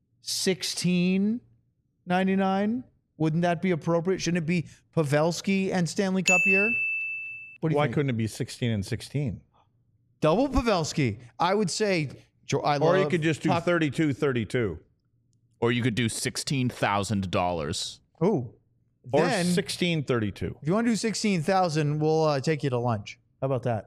Speaker 3: $16.99? Wouldn't that be appropriate? Shouldn't it be Pavelski and Stanley Cup year? What do you
Speaker 1: Why
Speaker 3: think?
Speaker 1: couldn't it be 16 and 16?
Speaker 3: Double Pavelski. I would say.
Speaker 1: Or you could just do 32-32.
Speaker 2: Or you could do $16,000.
Speaker 3: Oh.
Speaker 1: Or
Speaker 3: Then,
Speaker 1: 16-32.
Speaker 3: if you want to do 16,000, we'll take you to lunch. How about that?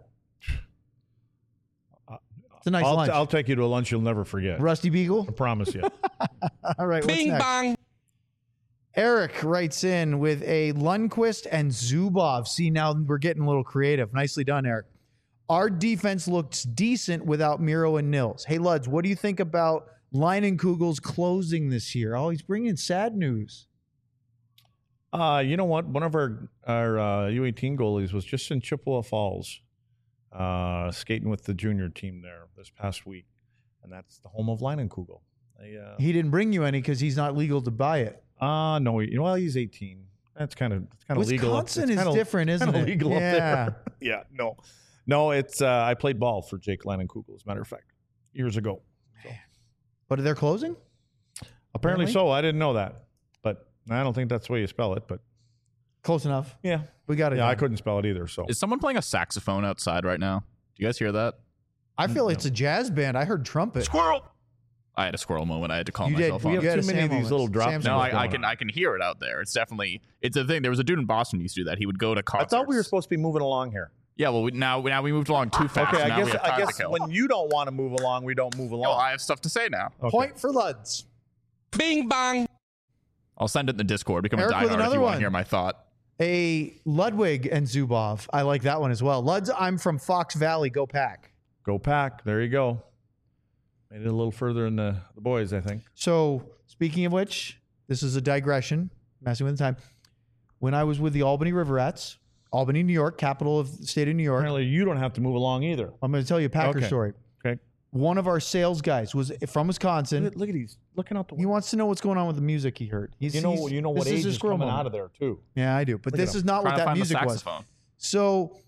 Speaker 3: It's a nice lunch.
Speaker 1: I'll take you to a lunch you'll never forget.
Speaker 3: Rusty Beagle.
Speaker 1: I promise you.
Speaker 3: All right. What's
Speaker 4: Bing
Speaker 3: next?
Speaker 4: bong.
Speaker 3: Eric writes in with a Lundqvist and Zubov. See, now we're getting a little creative. Nicely done, Eric. Our defense looks decent without Miro and Nils. Hey, Luds, what do you think about Leinenkugel's closing this year? Oh, he's bringing sad news.
Speaker 1: You know what? One of our U18 goalies was just in Chippewa Falls, skating with the junior team there this past week, and that's the home of Leinenkugel.
Speaker 3: He didn't bring you any because he's not legal to buy it.
Speaker 1: No, he's 18. That's kind of legal.
Speaker 3: Wisconsin is different, isn't it?
Speaker 1: Legal up
Speaker 3: Yeah.
Speaker 1: there. Yeah, no. It's I played ball for Jake Leinenkugel, as a matter of fact, years ago. So.
Speaker 3: But they're closing?
Speaker 1: Apparently so. I didn't know that, but I don't think that's the way you spell it. But
Speaker 3: Close enough.
Speaker 1: yeah,
Speaker 3: We got it.
Speaker 1: yeah, I
Speaker 3: done.
Speaker 1: couldn't spell it either. So
Speaker 2: Is someone playing a saxophone outside right now? Do you guys hear that?
Speaker 3: I feel it's a jazz band. I heard trumpet.
Speaker 2: Squirrel! I had a squirrel moment. I had to calm
Speaker 3: You did.
Speaker 2: myself
Speaker 3: We
Speaker 2: on.
Speaker 3: have
Speaker 1: You
Speaker 3: had
Speaker 1: have
Speaker 3: a
Speaker 1: too many
Speaker 3: Sam
Speaker 1: of these
Speaker 3: moments.
Speaker 1: little drop
Speaker 3: Sam's
Speaker 1: zone.
Speaker 2: No,
Speaker 1: What's
Speaker 2: I
Speaker 1: going
Speaker 2: can hear it out there. It's a thing. There was a dude in Boston who used to do that. He would go to
Speaker 1: I
Speaker 2: concerts.
Speaker 1: thought we were supposed to be moving along here.
Speaker 2: Yeah, well, now we moved along too fast.
Speaker 1: Okay,
Speaker 2: Now we have
Speaker 1: I
Speaker 2: time to
Speaker 1: guess
Speaker 2: kill.
Speaker 1: when you don't want to move along, we don't move
Speaker 2: No,
Speaker 1: along.
Speaker 2: I have stuff to say now.
Speaker 1: Okay.
Speaker 3: Point for Luds.
Speaker 4: Bing bong.
Speaker 2: I'll send it in the Discord. Become
Speaker 3: Eric
Speaker 2: a
Speaker 3: with
Speaker 2: diehard if
Speaker 3: another
Speaker 2: you want
Speaker 3: one.
Speaker 2: to hear my thought.
Speaker 3: A Ludwig and Zubov. I like that one as well. Luds, I'm from Fox Valley. Go Pack.
Speaker 1: Go Pack. There you go. Made it a little further in the boys, I think.
Speaker 3: So, speaking of which, this is a digression, messing with the time. When I was with the Albany River Rats, Albany, New York, capital of the state of New York.
Speaker 1: Apparently, you don't have to move along either.
Speaker 3: I'm going to tell you a Packer
Speaker 1: Okay.
Speaker 3: story.
Speaker 1: Okay.
Speaker 3: One of our sales guys was from Wisconsin.
Speaker 1: Look at he's looking out the
Speaker 3: He
Speaker 1: window.
Speaker 3: wants to know what's going on with the music he heard.
Speaker 1: You know what
Speaker 3: this
Speaker 1: age
Speaker 3: his
Speaker 1: is
Speaker 3: squirrel
Speaker 1: coming
Speaker 3: moment.
Speaker 1: out of there too.
Speaker 3: Yeah, I do. But
Speaker 1: Look at
Speaker 3: this
Speaker 1: him.
Speaker 3: is not what
Speaker 2: Trying to
Speaker 3: that
Speaker 2: find the
Speaker 3: music was.
Speaker 2: saxophone.
Speaker 3: So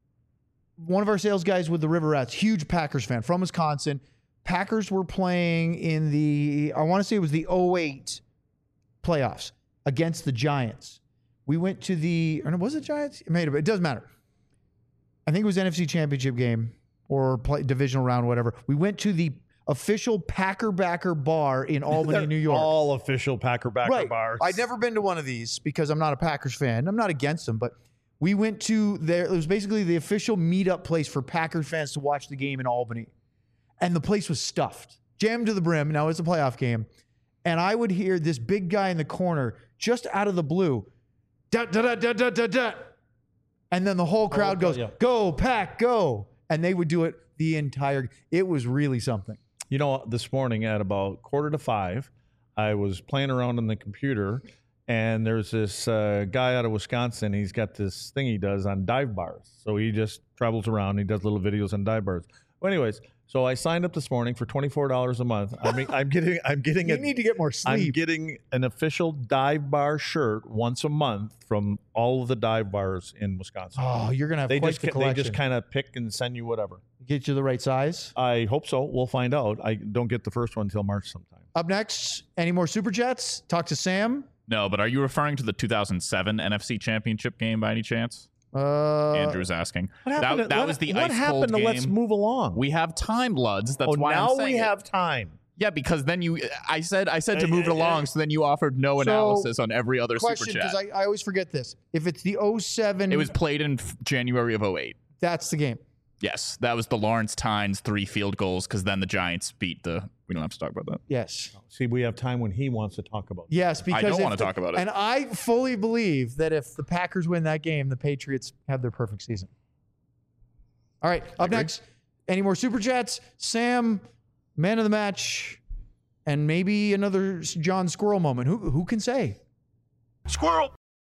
Speaker 3: one of our sales guys with the River Rats, huge Packers fan from Wisconsin. Packers were playing in I want to say it was the 08 playoffs against the Giants. We went to or was it Giants? It doesn't matter. I think it was NFC Championship game or divisional round, whatever. We went to the official Packer backer bar in Albany, New York.
Speaker 1: All official Packer backer bars.
Speaker 3: I'd never been to one of these because I'm not a Packers fan. I'm not against them, but we went to there. It was basically the official meetup place for Packers fans to watch the game in Albany. And the place was stuffed, jammed to the brim. Now it's a playoff game. And I would hear this big guy in the corner just out of the blue, da, da, da, da, da, da, da. And then the whole crowd goes, go, Pack, go. And they would do it the entire. It was really something.
Speaker 1: You know, this morning at about 4:45, I was playing around on the computer, and there's this guy out of Wisconsin. He's got this thing he does on dive bars. So he just travels around. He does little videos on dive bars. Well, anyways, so I signed up this morning for $24 a month. I mean, I'm getting
Speaker 3: You need to get more
Speaker 1: I'm
Speaker 3: sleep.
Speaker 1: getting an official dive bar shirt once a month from all of the dive bars in Wisconsin.
Speaker 3: Oh, you're going to have
Speaker 1: They
Speaker 3: quite
Speaker 1: just
Speaker 3: the
Speaker 1: they
Speaker 3: collection.
Speaker 1: just kind of pick and send you whatever.
Speaker 3: Get you the right size.
Speaker 1: I hope so. We'll find out. I don't get the first one until March sometime.
Speaker 3: Up next, any more Super Chats? Talk to Sam.
Speaker 2: No, but are you referring to the 2007 NFC Championship game by any chance? Andrew's asking. That was the
Speaker 1: what
Speaker 2: ice
Speaker 1: happened
Speaker 2: cold
Speaker 1: to
Speaker 2: game.
Speaker 1: Let's move along?
Speaker 2: We have time, Luds. That's why
Speaker 1: now
Speaker 2: I'm saying
Speaker 1: we
Speaker 2: it.
Speaker 1: have time.
Speaker 2: Yeah, because then I said to move it along, so then you offered no analysis on every other
Speaker 3: Question,
Speaker 2: super chat.
Speaker 3: because I always forget this. If it's the 07,
Speaker 2: It was played in January of 08.
Speaker 3: that's the game.
Speaker 2: Yes, that was the Lawrence Tynes 3 field goals, because then the Giants beat the. We don't have to talk about that.
Speaker 3: Yes.
Speaker 1: See, we have time when he wants to talk about it.
Speaker 3: Yes, because
Speaker 2: don't
Speaker 3: if
Speaker 2: wanna talk about it.
Speaker 3: And I fully believe that if the Packers win that game, the Patriots have their perfect season. All right, up next, any more Super Chats? Sam, man of the match, and maybe another John Squirrel moment. Who can say?
Speaker 1: Squirrel.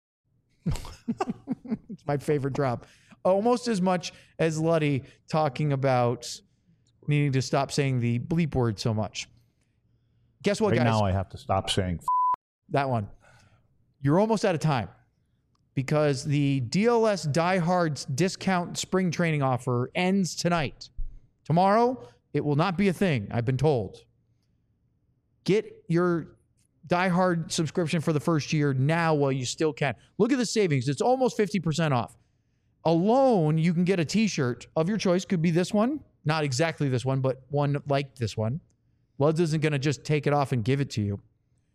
Speaker 3: It's my favorite drop. Almost as much as Luddy talking about needing to stop saying the bleep word so much. Guess what,
Speaker 1: Right
Speaker 3: guys?
Speaker 1: now I have to stop saying
Speaker 3: That one. You're almost out of time because the DLS Diehards discount spring training offer ends tonight. Tomorrow, it will not be a thing, I've been told. Get your Die Hard subscription for the first year now while you still can. Look at the savings. It's almost 50% off. Alone, you can get a t-shirt of your choice. Could be this one. Not exactly this one, but one like this one. Luds isn't going to just take it off and give it to you.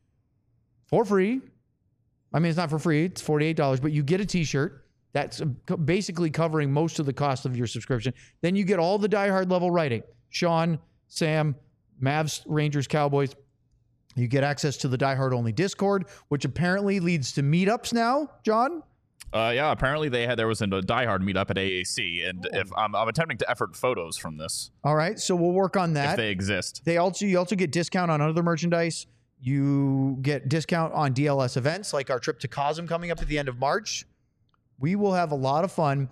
Speaker 3: For free. I mean, it's not for free. It's $48, but you get a t-shirt. That's basically covering most of the cost of your subscription. Then you get all the Die Hard level writing. Sean, Sam, Mavs, Rangers, Cowboys. You get access to the Die Hard only Discord, which apparently leads to meetups now, John.
Speaker 2: Yeah, apparently there was a Die Hard meetup at AAC, and if I'm attempting to effort photos from this,
Speaker 3: All right, so we'll work on that.
Speaker 2: if they exist.
Speaker 3: You also get discount on other merchandise. You get discount on DLS events like our trip to Cosm coming up at the end of March. We will have a lot of fun,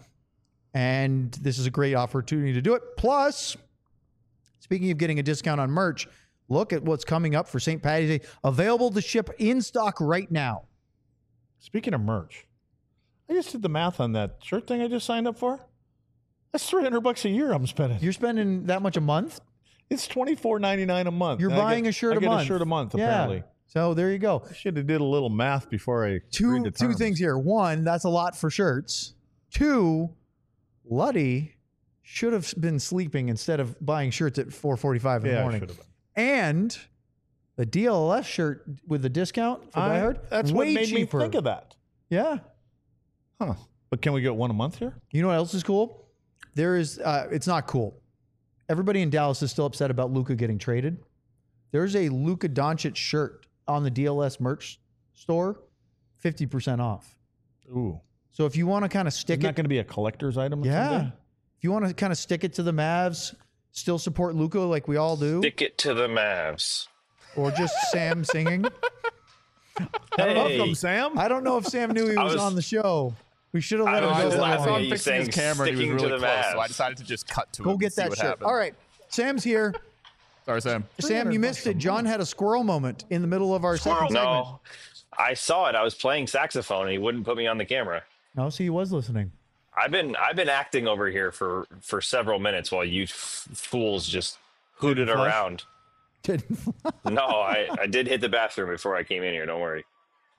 Speaker 3: and this is a great opportunity to do it. Plus, speaking of getting a discount on merch, look at what's coming up for St. Paddy's Day. Available to ship in stock right now.
Speaker 1: Speaking of merch, I just did the math on that shirt thing I just signed up for. That's $300 a year I'm spending.
Speaker 3: You're spending that much a month?
Speaker 1: It's $24.99 a month.
Speaker 3: You're
Speaker 1: And
Speaker 3: buying a shirt a month.
Speaker 1: I get a shirt a month,
Speaker 3: Yeah.
Speaker 1: apparently.
Speaker 3: So there you go.
Speaker 1: I should have did a little math before I agreed
Speaker 3: Two
Speaker 1: to terms.
Speaker 3: things here. One, that's a lot for shirts. Two, Luddy should have been sleeping instead of buying shirts at 4:45 in the
Speaker 1: Yeah, I
Speaker 3: morning.
Speaker 1: should have been.
Speaker 3: And the DLS shirt with the discount for Die Hard,
Speaker 1: That's
Speaker 3: way
Speaker 1: what made
Speaker 3: cheaper.
Speaker 1: me think of that.
Speaker 3: Yeah.
Speaker 1: Huh. But can we get one a month here?
Speaker 3: You know what else is cool? There is. It's not cool. Everybody in Dallas is still upset about Luka getting traded. There's a Luka Doncic shirt on the DLS merch store, 50% off.
Speaker 1: Ooh.
Speaker 3: So if you want to kind of
Speaker 1: It's
Speaker 3: stick
Speaker 1: not
Speaker 3: it,
Speaker 1: going to be a collector's item
Speaker 3: yeah.
Speaker 1: someday?
Speaker 3: If you want to kind of stick it to the Mavs, still support Luka like we all do,
Speaker 6: Stick it to the Mavs.
Speaker 3: or just Sam singing.
Speaker 1: Welcome,
Speaker 6: Hey,
Speaker 1: Sam.
Speaker 3: I don't know if Sam knew he
Speaker 6: I
Speaker 3: was
Speaker 6: was-
Speaker 3: on the show. We should have let
Speaker 6: I
Speaker 3: him
Speaker 6: was
Speaker 3: go.
Speaker 6: just
Speaker 3: that
Speaker 6: laughing
Speaker 2: I saw
Speaker 3: long.
Speaker 6: at
Speaker 2: him
Speaker 6: you
Speaker 2: fixing his
Speaker 6: saying
Speaker 2: camera and he was
Speaker 6: sticking to
Speaker 2: really
Speaker 6: the
Speaker 2: close, so I
Speaker 6: Mavs.
Speaker 2: decided to just cut to him
Speaker 3: Go
Speaker 2: and
Speaker 3: get
Speaker 2: see
Speaker 3: that
Speaker 2: what
Speaker 3: shit.
Speaker 2: happened.
Speaker 3: All right. Sam's here.
Speaker 2: Sorry, Sam.
Speaker 3: Sam, you missed it. John had a squirrel moment in the middle of our second segment.
Speaker 6: No, I saw it. I was playing saxophone and he wouldn't put me on the camera.
Speaker 3: No, see, he was listening.
Speaker 6: I've been acting over here for several minutes while you fools just hooted
Speaker 1: flush?
Speaker 6: around. No, I did hit the bathroom before I came in here. Don't worry.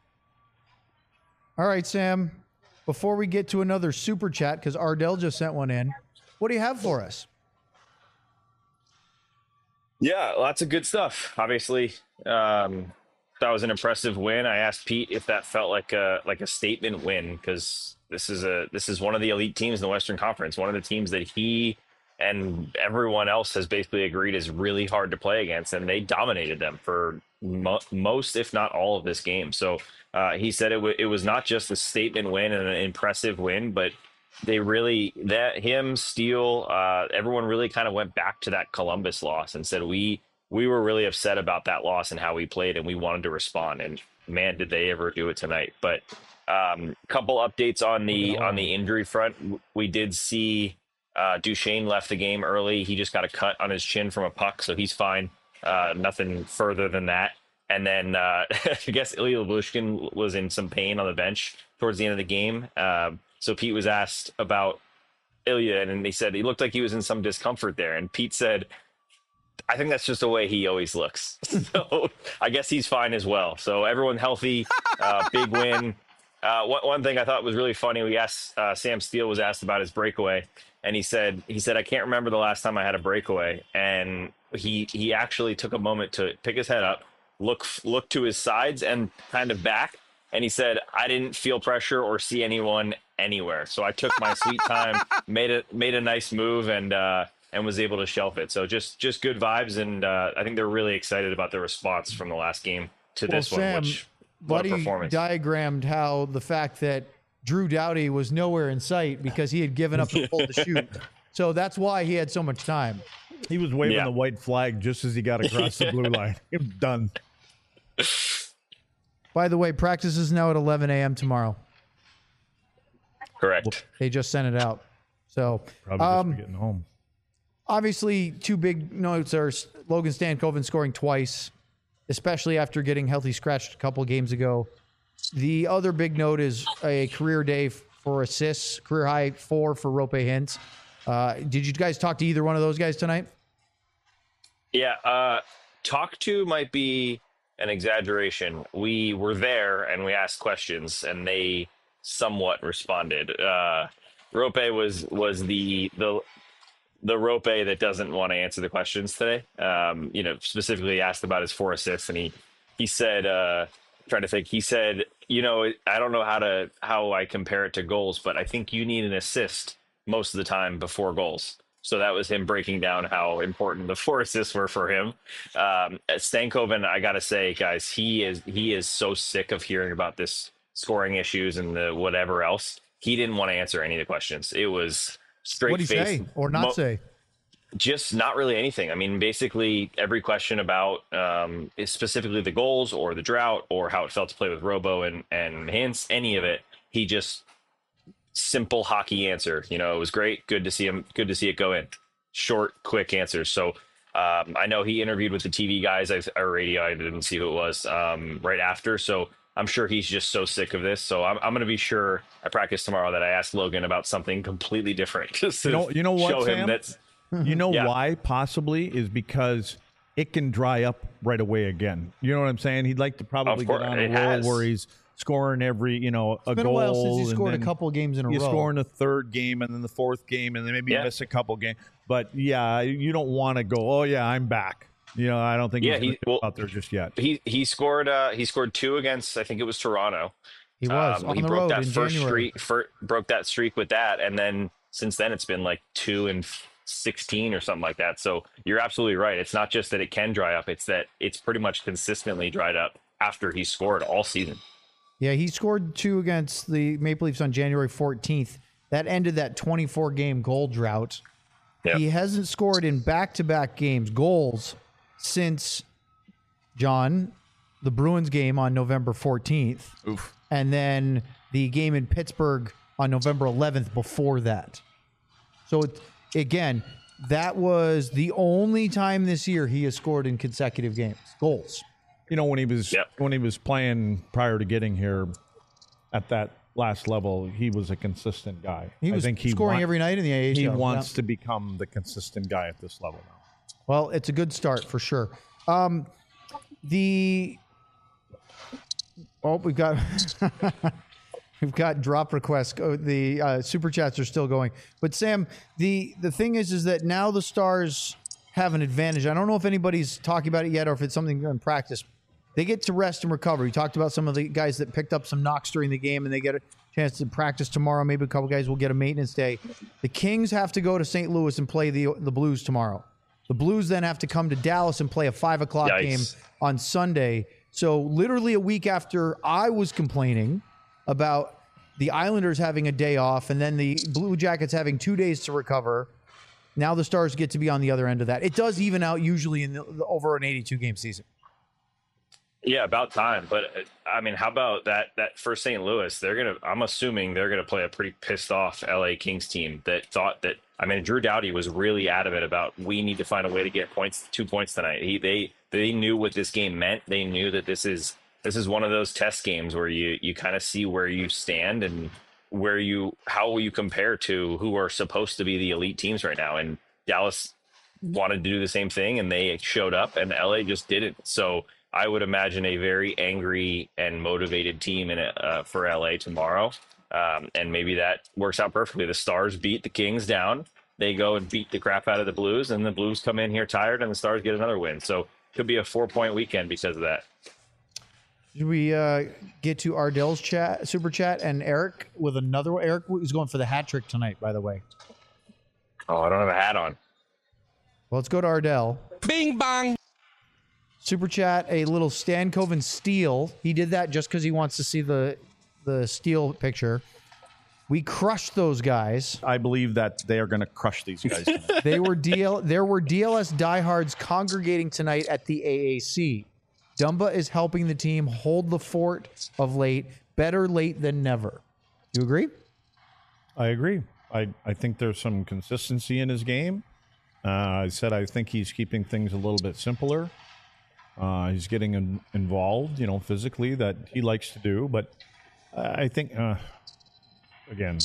Speaker 3: All right, Sam. Before we get to another super chat, because Ardell just sent one in, what do you have for us?
Speaker 6: Yeah, lots of good stuff. Obviously, that was an impressive win. I asked Pete if that felt like a statement win because this is one of the elite teams in the Western Conference. One of the teams that he and everyone else has basically agreed is really hard to play against, and they dominated them for most, if not all, of this game. So he said it was not just a statement win and an impressive win, but they really Steele, everyone really kind of went back to that Columbus loss and said we were really upset about that loss and how we played, and we wanted to respond. And man, did they ever do it tonight! But couple updates on the injury front. We did see Duchesne left the game early. He just got a cut on his chin from a puck, so he's fine. Nothing further than that. And then I guess Ilya Lubushkin was in some pain on the bench towards the end of the game. So Pete was asked about Ilya, and he said he looked like he was in some discomfort there. And Pete said, I think that's just the way he always looks. So I guess he's fine as well. So everyone healthy, big win. One thing I thought was really funny, we asked Sam Steele was asked about his breakaway, and he said I can't remember the last time I had a breakaway. And he actually took a moment to pick his head up, look to his sides and kind of back, and he said, I didn't feel pressure or see anyone anywhere. So I took my sweet time, made a nice move, and was able to shelf it. So just good vibes, and I think they're really excited about the response from the last game to this one.
Speaker 3: Sam,
Speaker 6: Which what a
Speaker 3: Buddy
Speaker 6: performance!
Speaker 3: diagrammed how the fact that Drew Doughty was nowhere in sight because he had given up and pulled the shoot. So that's why he had so much time.
Speaker 1: He was waving
Speaker 6: Yeah.
Speaker 1: the white flag just as he got across the blue line. It was done.
Speaker 3: By the way, practice is now at 11 a.m. tomorrow.
Speaker 6: Correct.
Speaker 3: They just sent it out. So
Speaker 1: Probably just for getting home.
Speaker 3: obviously, two big notes are Logan Stankoven scoring twice, especially after getting healthy scratched a couple games ago. The other big note is a career day for assists, career high 4 for Rope Hintz. Did you guys talk to either one of those guys tonight?
Speaker 6: Yeah, talk to might be an exaggeration. We were there and we asked questions, and they somewhat responded. Rope was the Rope that doesn't want to answer the questions today. Specifically asked about his 4 assists, and he said, trying to think, he said, I don't know how I compare it to goals, but I think you need an assist most of the time before goals. So that was him breaking down how important the 4 assists were for him. Stankoven, I got to say, guys, he is so sick of hearing about this scoring issues and the whatever else. He didn't want to answer any of the questions. It was straight
Speaker 3: What did he
Speaker 6: face.
Speaker 3: say or not say?
Speaker 6: Just not really anything. I mean, basically every question about is specifically the goals or the drought or how it felt to play with Robo and Hintz, any of it, he just simple hockey answer. It was great. Good to see him. Good to see it go in. Short, quick answers. So I know he interviewed with the TV guys or radio. I didn't see who it was right after. So I'm sure he's just so sick of this. So I'm going to be sure I practice tomorrow that I ask Logan about something completely different. Just to
Speaker 1: You know what,
Speaker 6: show him
Speaker 1: Sam?
Speaker 6: that's
Speaker 1: You know
Speaker 6: Yeah.
Speaker 1: why possibly is because it can dry up right away again. You know what I'm saying? He'd like to probably
Speaker 6: Of course,
Speaker 1: get on a
Speaker 6: it
Speaker 1: roll
Speaker 6: has.
Speaker 1: where he's scoring every, a
Speaker 3: It's been
Speaker 1: goal.
Speaker 3: a while since he
Speaker 1: and
Speaker 3: scored a
Speaker 1: then
Speaker 3: couple games in a
Speaker 1: you
Speaker 3: row.
Speaker 1: score in the 3rd game and then the 4th game and then maybe
Speaker 6: Yeah.
Speaker 1: you miss a couple games. But yeah, you don't want to go, oh yeah, I'm back. I don't think
Speaker 6: Yeah,
Speaker 1: he's out there just yet.
Speaker 6: he scored 2 against, I think it was Toronto.
Speaker 3: He was on
Speaker 6: he
Speaker 3: the
Speaker 6: broke
Speaker 3: road
Speaker 6: that
Speaker 3: in
Speaker 6: first
Speaker 3: January.
Speaker 6: broke that streak with that, and then since then it's been like 2 and 16 or something like that. So you're absolutely right. It's not just that it can dry up; it's that it's pretty much consistently dried up after he scored all season.
Speaker 3: Yeah, he scored 2 against the Maple Leafs on January 14th. That ended that 24-game goal drought.
Speaker 6: Yep.
Speaker 3: He hasn't scored in back-to-back games goals since, John, the Bruins game on November 14th.
Speaker 2: Oof.
Speaker 3: And then the game in Pittsburgh on November 11th before that. So, again, that was the only time this year he has scored in consecutive goals.
Speaker 1: You know, when he was playing prior to getting here at that last level, he was a consistent guy.
Speaker 3: He was scoring every night in the AHL.
Speaker 1: He wants to become the consistent guy at this level now.
Speaker 3: Well, it's a good start for sure. We've got we've got drop requests. The super chats are still going. But Sam, the thing is that now the Stars have an advantage. I don't know if anybody's talking about it yet or if it's something in practice. They get to rest and recover. You talked about some of the guys that picked up some knocks during the game and they get a chance to practice tomorrow. Maybe a couple guys will get a maintenance day. The Kings have to go to St. Louis and play the Blues tomorrow. The Blues then have to come to Dallas and play a 5 o'clock game on Sunday. So literally a week after I was complaining about the Islanders having a day off and then the Blue Jackets having 2 days to recover, now the Stars get to be on the other end of that. It does even out usually in over an 82-game season.
Speaker 6: Yeah, about time. But I mean, how about that for St. Louis? I'm assuming they're gonna play a pretty pissed off LA Kings team that thought that. I mean, Drew Doughty was really adamant about we need to find a way to get 2 points tonight. They knew what this game meant. They knew that this is one of those test games where you kind of see where you stand and how will you compare to who are supposed to be the elite teams right now. And Dallas wanted to do the same thing, and they showed up, and LA just didn't. So I would imagine a very angry and motivated team for LA tomorrow. And maybe that works out perfectly. The Stars beat the Kings down. They go and beat the crap out of the Blues, and the Blues come in here tired, and the Stars get another win. So it could be a 4-point weekend because of that.
Speaker 3: Should we get to Ardell's super chat and Eric with another one? Eric is going for the hat trick tonight, by the way.
Speaker 6: Oh, I don't have a hat on.
Speaker 3: Well, let's go to Ardell.
Speaker 4: Bing bang.
Speaker 3: Super chat, a little Stankoven steal. He did that just because he wants to see the steal picture. We crushed those guys.
Speaker 1: I believe that they are going to crush these guys tonight.
Speaker 3: There were DLS diehards congregating tonight at the AAC. Dumba is helping the team hold the fort of late. Better late than never. You agree?
Speaker 1: I agree. I think there's some consistency in his game. I think he's keeping things a little bit simpler. He's getting involved, physically that he likes to do. But I think, again,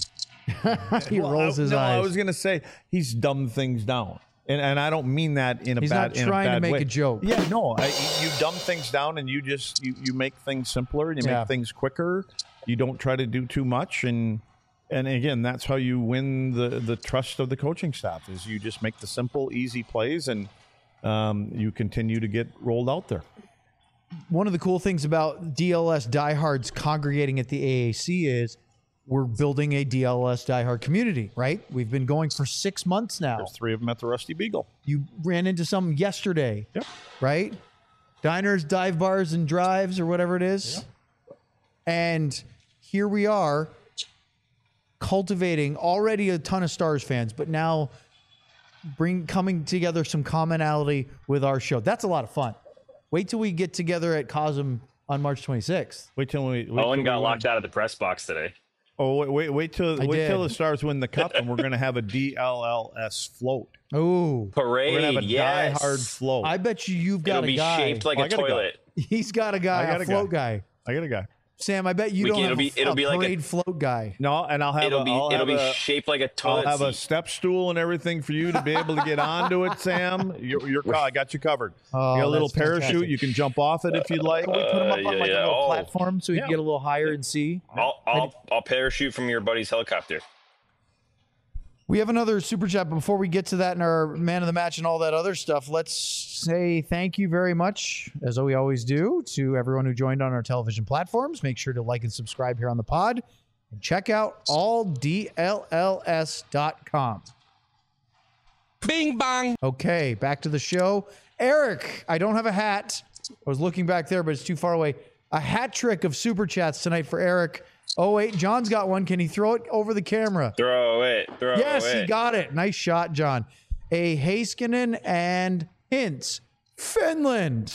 Speaker 3: he rolls his eyes.
Speaker 1: I was going to say he's dumbed things down. And I don't mean that in a
Speaker 3: He's
Speaker 1: bad way.
Speaker 3: He's not trying to make a joke.
Speaker 1: Yeah, no. You dumb things down and you make things simpler and you make things quicker. You don't try to do too much. And again, that's how you win the trust of the coaching staff is you just make the simple, easy plays and you continue to get rolled out there.
Speaker 3: One of the cool things about DLS diehards congregating at the AAC is we're building a DLS diehard community, right? We've been going for 6 months now.
Speaker 1: There's 3 of them at the Rusty Beagle.
Speaker 3: You ran into some yesterday,
Speaker 1: Yep.
Speaker 3: right? Diners, dive bars, and drives or whatever it is. Yep. And here we are cultivating already a ton of Stars fans, but now coming together some commonality with our show. That's a lot of fun. Wait till we get together at Cosm on March 26th.
Speaker 6: Owen got locked out of the press box today.
Speaker 1: Oh, wait till the Stars win the cup, and we're going to have a DLLS float.
Speaker 3: Oh,
Speaker 6: parade!
Speaker 1: We're going to have a
Speaker 6: yes.
Speaker 1: diehard float.
Speaker 3: I bet you've got
Speaker 6: It'll
Speaker 3: a guy.
Speaker 6: It'll be shaped like a toilet.
Speaker 3: He's got a guy, a float guy.
Speaker 1: I got a guy.
Speaker 3: Sam, I bet you don't have a parade
Speaker 6: like
Speaker 3: float guy.
Speaker 6: No, and it'll be shaped like a toilet.
Speaker 1: I'll have a step stool and everything for you to be able to get onto it, Sam. I got you covered. You got a little parachute.
Speaker 3: Fantastic.
Speaker 1: You can jump off it if you'd like.
Speaker 3: Can we put him up on a little platform so he can get a little higher and see?
Speaker 6: I'll parachute from your buddy's helicopter.
Speaker 3: We have another super chat, but before we get to that and our man of the match and all that other stuff, let's say thank you very much, as we always do, to everyone who joined on our television platforms. Make sure to like and subscribe here on the pod and check out alldlls.com.
Speaker 4: Bing bang.
Speaker 3: Okay, back to the show. Eric, I don't have a hat. I was looking back there, but it's too far away. A hat trick of super chats tonight for Eric. Oh, wait, John's got one. Can he throw it over the camera?
Speaker 6: Throw it.
Speaker 3: Yes, he got it. Nice shot, John. A Heiskanen and Hintz. Finland.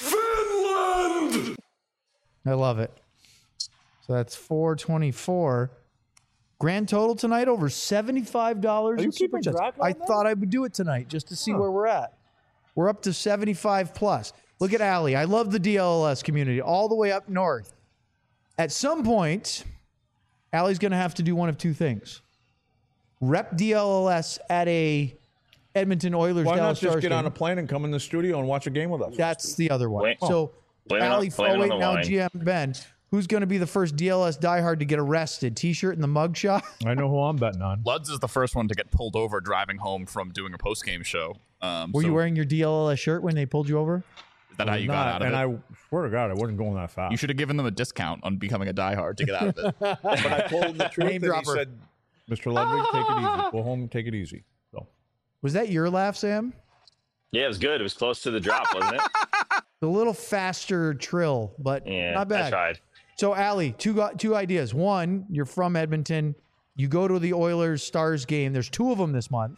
Speaker 3: I love it. So that's 424. Grand total tonight over $75 in Super Chats. I thought I would do it tonight just to see where we're at. We're up to 75 plus. Look at Allie. I love the DLLS community all the way up north. At some point, Allie's going to have to do one of two things. Rep DLLS at a Edmonton Oilers
Speaker 1: Why not
Speaker 3: Dallas
Speaker 1: just
Speaker 3: Stars
Speaker 1: get
Speaker 3: game.
Speaker 1: on a plane and come in the studio and watch a game with us?
Speaker 3: That's the other one.
Speaker 6: Blame-
Speaker 3: So,
Speaker 6: blame it on-
Speaker 3: Allie,
Speaker 6: blame it on the
Speaker 3: now
Speaker 6: wine.
Speaker 3: GM Ben, who's going to be the first DLS diehard to get arrested? T-shirt and the mugshot?
Speaker 1: I know who I'm betting on.
Speaker 2: Luds is the first one to get pulled over driving home from doing a post game show.
Speaker 3: Were you wearing your DLLS shirt when they pulled you over?
Speaker 2: Is that how you got out of
Speaker 1: and
Speaker 2: it?
Speaker 1: I swear to God, I wasn't going that fast.
Speaker 2: You should have given them a discount on becoming a diehard to get out of it.
Speaker 1: But I told him the truth,
Speaker 3: Name
Speaker 1: and he
Speaker 3: dropper.
Speaker 1: said, Mr. Ludwig, take it easy. Go home, take it easy. So
Speaker 3: Was that your laugh, Sam?
Speaker 6: Yeah, it was good. It was close to the drop, wasn't it?
Speaker 3: A little faster trill, but
Speaker 6: Yeah,
Speaker 3: not
Speaker 6: I
Speaker 3: bad.
Speaker 6: tried.
Speaker 3: So, Allie, two ideas. One, you're from Edmonton. You go to the Oilers Stars game. There's 2 of them this month.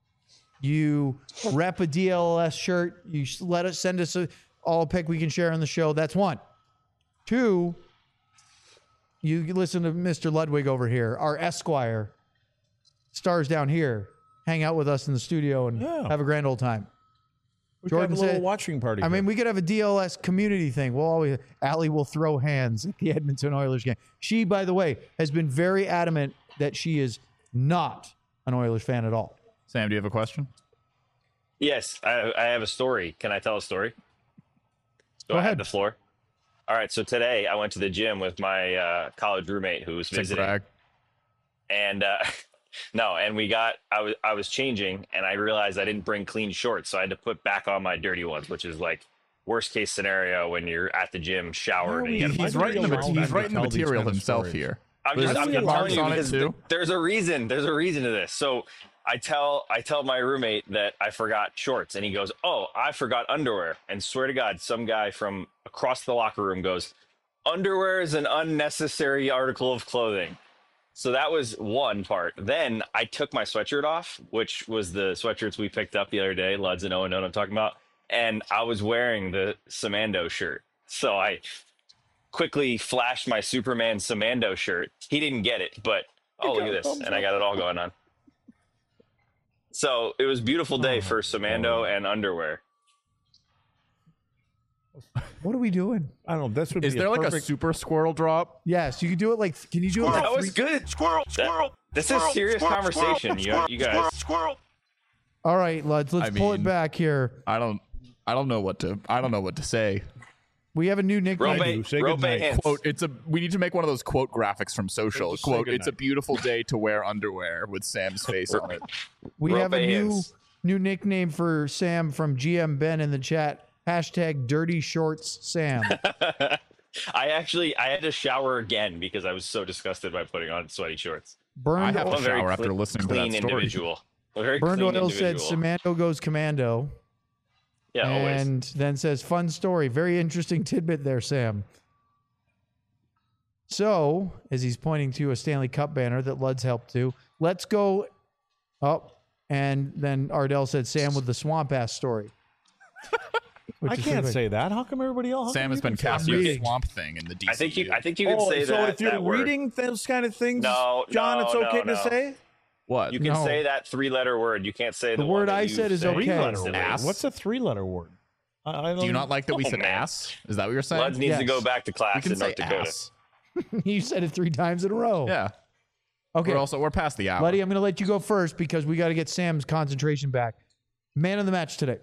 Speaker 3: You rep a DLS shirt. You let us send us all a pic we can share on the show. That's 1. 2, you listen to Mr. Ludwig over here, our Esquire, Stars down here, hang out with us in the studio and
Speaker 1: Yeah.
Speaker 3: have a grand old time.
Speaker 1: we could have
Speaker 3: Jordan
Speaker 1: a little
Speaker 3: said-
Speaker 1: watching party.
Speaker 3: I mean,
Speaker 1: here.
Speaker 3: we could have a DLS community thing. We'll always, Allie will throw hands at the Edmonton Oilers game. She, by the way, has been very adamant that she is not an Oilers fan at all.
Speaker 2: Sam, do you have a question?
Speaker 6: Yes, I have a story. Can I tell a story?
Speaker 3: Go
Speaker 6: I
Speaker 3: ahead.
Speaker 6: have the floor. All right. So today I went to the gym with my college roommate who was
Speaker 2: Sick
Speaker 6: visiting,
Speaker 2: brag.
Speaker 6: and no, and I was changing, and I realized I didn't bring clean shorts, so I had to put back on my dirty ones, which is like worst case scenario when you're at the gym showered and you gotta
Speaker 2: He's
Speaker 6: put
Speaker 2: writing the
Speaker 1: Why do you
Speaker 2: he's writing the
Speaker 1: tell these
Speaker 2: material
Speaker 1: kind of
Speaker 2: himself
Speaker 1: stories?
Speaker 2: here.
Speaker 6: I'm
Speaker 2: There's
Speaker 6: telling
Speaker 2: marks
Speaker 6: you
Speaker 2: on it
Speaker 6: because
Speaker 2: too.
Speaker 6: there's a reason. There's a reason to this. So I tell my roommate that I forgot shorts, and he goes, "Oh, I forgot underwear." And swear to God, some guy from across the locker room goes, "Underwear is an unnecessary article of clothing." So that was one part. Then I took my sweatshirt off, which was the sweatshirts we picked up the other day. Luds and Owen know what I'm talking about. And I was wearing the Samando shirt. So I quickly flashed my Superman Samando shirt. He didn't get it, but look at this. And I got it all going on. So it was a beautiful day for Samando and underwear.
Speaker 3: What are we doing?
Speaker 1: I don't know. This would
Speaker 2: Is
Speaker 1: be
Speaker 2: there like a
Speaker 1: perfect,
Speaker 2: super squirrel drop?
Speaker 3: Yes, you can do it like, can you do it
Speaker 6: That
Speaker 3: like
Speaker 6: was
Speaker 3: 3?
Speaker 6: good. This is serious conversation. You guys.
Speaker 3: All right, let's
Speaker 2: I
Speaker 3: pull it
Speaker 2: mean-
Speaker 3: back here.
Speaker 2: I don't know what to say.
Speaker 3: We have a new nickname.
Speaker 1: do. Say
Speaker 6: Rope
Speaker 1: goodnight.
Speaker 6: hands.
Speaker 2: Quote, we need to make one of those quote graphics from social.
Speaker 1: Just say
Speaker 2: Quote, it's a
Speaker 1: goodnight.
Speaker 2: beautiful day to wear underwear with Sam's face on it.
Speaker 3: We
Speaker 6: Rope
Speaker 3: have a
Speaker 6: hands.
Speaker 3: new nickname for Sam from GM Ben in the chat. Hashtag Dirty Shorts Sam.
Speaker 6: I had to shower again because I was so disgusted by putting on sweaty shorts.
Speaker 3: Burned,
Speaker 2: I have
Speaker 6: I'm
Speaker 2: to
Speaker 6: a very
Speaker 2: shower after
Speaker 6: clean-
Speaker 2: listening to
Speaker 6: clean
Speaker 2: that story.
Speaker 6: individual. A very
Speaker 3: Burned
Speaker 6: clean
Speaker 3: Oil said
Speaker 6: individual.
Speaker 3: Samando goes commando.
Speaker 6: Yeah, always.
Speaker 3: And then says, fun story. Very interesting tidbit there, Sam. So, as he's pointing to a Stanley Cup banner that Luds helped to, let's go up. And then Ardell said, Sam with the swamp ass story. Which
Speaker 1: I
Speaker 3: is
Speaker 1: can't
Speaker 3: pretty
Speaker 1: say that. How come everybody else? how
Speaker 2: Sam
Speaker 1: come
Speaker 2: has
Speaker 1: you
Speaker 2: been
Speaker 1: can say that?
Speaker 2: casting a
Speaker 6: reading.
Speaker 2: swamp thing in the DCU.
Speaker 6: I think you can say
Speaker 1: so
Speaker 6: that.
Speaker 1: if you're
Speaker 6: that word.
Speaker 1: reading those kind of things,
Speaker 6: No,
Speaker 1: John,
Speaker 6: no,
Speaker 1: it's okay
Speaker 6: no,
Speaker 1: to
Speaker 6: no.
Speaker 1: say.
Speaker 2: What?
Speaker 6: You can
Speaker 3: No.
Speaker 6: say that 3-letter word. You can't say the
Speaker 3: The
Speaker 6: one
Speaker 3: word
Speaker 6: that
Speaker 3: I
Speaker 6: you
Speaker 3: said is
Speaker 6: say
Speaker 3: okay.
Speaker 6: constantly.
Speaker 2: Ass?
Speaker 1: What's a 3-letter word? I
Speaker 2: Do you not like that we
Speaker 6: Oh,
Speaker 2: said
Speaker 6: man.
Speaker 2: ass? Is that what you're saying?
Speaker 6: Luds needs to
Speaker 3: Yes.
Speaker 6: go back to
Speaker 2: we
Speaker 6: class
Speaker 2: can
Speaker 6: in
Speaker 2: say
Speaker 6: North Dakota.
Speaker 2: ass.
Speaker 3: You said it 3 times in a row.
Speaker 2: Yeah.
Speaker 3: Okay.
Speaker 2: We're past the hour.
Speaker 3: Buddy, I'm going to let you go first because we got to get Sam's concentration back. Man of the match today.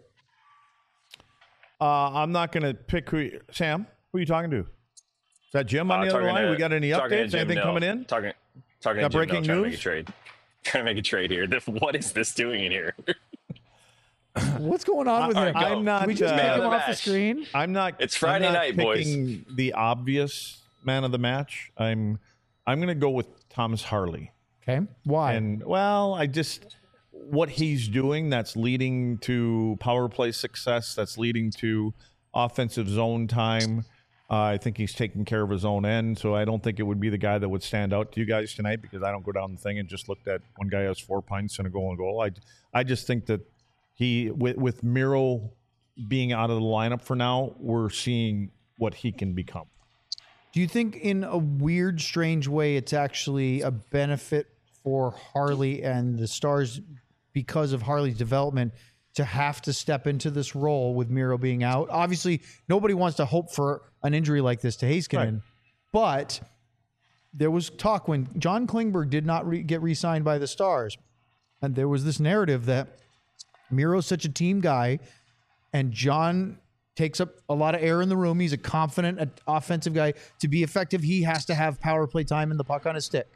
Speaker 1: I'm not going to pick Sam, who are you talking to? Is that Jim on the other
Speaker 6: Talking
Speaker 1: line?
Speaker 6: to-
Speaker 1: We got any
Speaker 6: talking to
Speaker 1: updates?
Speaker 6: Jim
Speaker 1: Anything
Speaker 6: Mill.
Speaker 1: coming in?
Speaker 6: Talking
Speaker 1: Got
Speaker 6: to Jim
Speaker 1: breaking
Speaker 6: Mill, trying to make a
Speaker 1: news?
Speaker 6: trade. Trying to make a trade here. What is this doing in here?
Speaker 3: What's going on with
Speaker 6: All
Speaker 3: him?
Speaker 6: right, go.
Speaker 1: I'm not.
Speaker 3: Can we just
Speaker 6: Man
Speaker 3: make
Speaker 6: of
Speaker 3: him
Speaker 6: the
Speaker 3: off the
Speaker 6: match.
Speaker 3: screen?
Speaker 1: I'm not.
Speaker 6: It's Friday
Speaker 1: I'm not
Speaker 6: night, boys.
Speaker 1: picking the obvious man of the match. I'm going to go with Thomas Harley.
Speaker 3: Okay. Why?
Speaker 1: And well, I just what he's doing that's leading to power play success, that's leading to offensive zone time. I think he's taking care of his own end, so I don't think it would be the guy that would stand out to you guys tonight because I don't go down the thing and just looked at one guy has 4 pints and a goal. I just think that he with Miro being out of the lineup for now, we're seeing what he can become.
Speaker 3: Do you think in a weird, strange way, it's actually a benefit for Harley and the Stars because of Harley's development to have to step into this role with Miro being out? Obviously, nobody wants to hope for an injury like this to Heiskanen,
Speaker 1: Right.
Speaker 3: but there was talk when John Klingberg did not get re-signed by the Stars, and there was this narrative that Miro's such a team guy, and John takes up a lot of air in the room. He's a confident offensive guy. To be effective, he has to have power play time and the puck on his stick.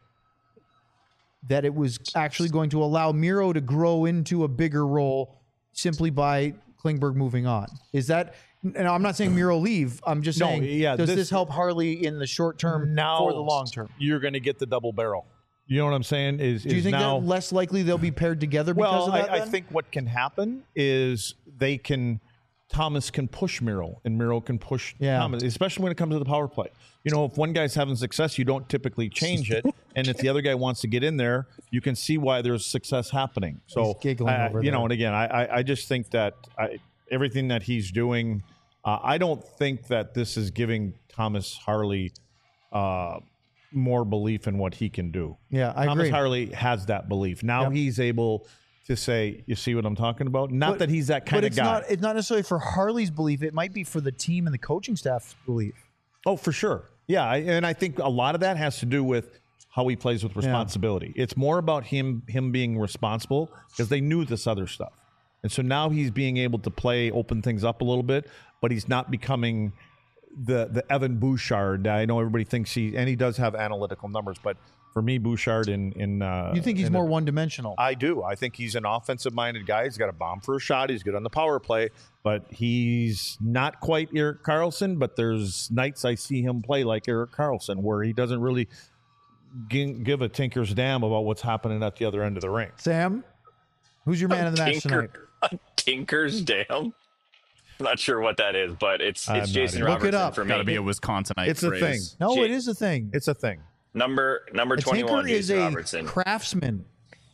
Speaker 3: That it was actually going to allow Miro to grow into a bigger role simply by Klingberg moving on. Is that, and I'm not saying Miro leave. I'm just
Speaker 1: No,
Speaker 3: saying,
Speaker 1: yeah,
Speaker 3: does
Speaker 1: this-
Speaker 3: this help Harley in the short term
Speaker 1: Now
Speaker 3: for the long term?
Speaker 1: You're going to get the double barrel. You know what I'm saying?
Speaker 3: Do you think
Speaker 1: now,
Speaker 3: that less likely they'll be paired together because
Speaker 1: well,
Speaker 3: of that?
Speaker 1: I
Speaker 3: then?
Speaker 1: think what can happen is Thomas can push Miro and Miro can push
Speaker 3: Yeah.
Speaker 1: Thomas, especially when it comes to the power play. You know, if one guy's having success, you don't typically change it. And if the other guy wants to get in there, you can see why there's success happening. So,
Speaker 3: He's giggling over
Speaker 1: you
Speaker 3: there.
Speaker 1: know, and again, I just think that everything that he's doing, I don't think that this is giving Thomas Harley more belief in what he can do.
Speaker 3: Yeah, I
Speaker 1: Thomas
Speaker 3: agree.
Speaker 1: Harley has that belief. Now
Speaker 3: Yep.
Speaker 1: he's able to say, you see what I'm talking about? Not that he's that kind
Speaker 3: but
Speaker 1: of
Speaker 3: it's
Speaker 1: guy.
Speaker 3: It's not necessarily for Harley's belief. It might be for the team and the coaching staff's belief.
Speaker 1: Oh, for sure. Yeah, and I think a lot of that has to do with how he plays with responsibility. It's more about him being responsible because they knew this other stuff. And so now he's being able to open things up a little bit, but he's not becoming the Evan Bouchard. I know everybody thinks he does have analytical numbers, but for me, Bouchard
Speaker 3: You think he's more one-dimensional?
Speaker 1: I do. I think he's an offensive-minded guy. He's got a bomb for a shot. He's good on the power play, but he's not quite Erik Karlsson. But there's nights I see him play like Erik Karlsson, where he doesn't really give a tinker's damn about what's happening at the other end of the ring.
Speaker 3: Sam, who's your man of the match tonight?
Speaker 6: Tinker's Dam. I'm not sure what that is, but it's
Speaker 1: I'm not
Speaker 6: Jason
Speaker 1: either.
Speaker 3: Look it
Speaker 6: Robertson
Speaker 3: up.
Speaker 6: for me.
Speaker 2: Got to be a Wisconsinite
Speaker 1: It's a
Speaker 2: phrase.
Speaker 1: thing.
Speaker 3: No,
Speaker 6: Jay-
Speaker 3: it is a thing.
Speaker 1: It's a thing.
Speaker 6: Number
Speaker 3: A
Speaker 6: 21,
Speaker 3: tinker is
Speaker 6: Jason
Speaker 3: a
Speaker 6: Robertson.
Speaker 3: craftsman.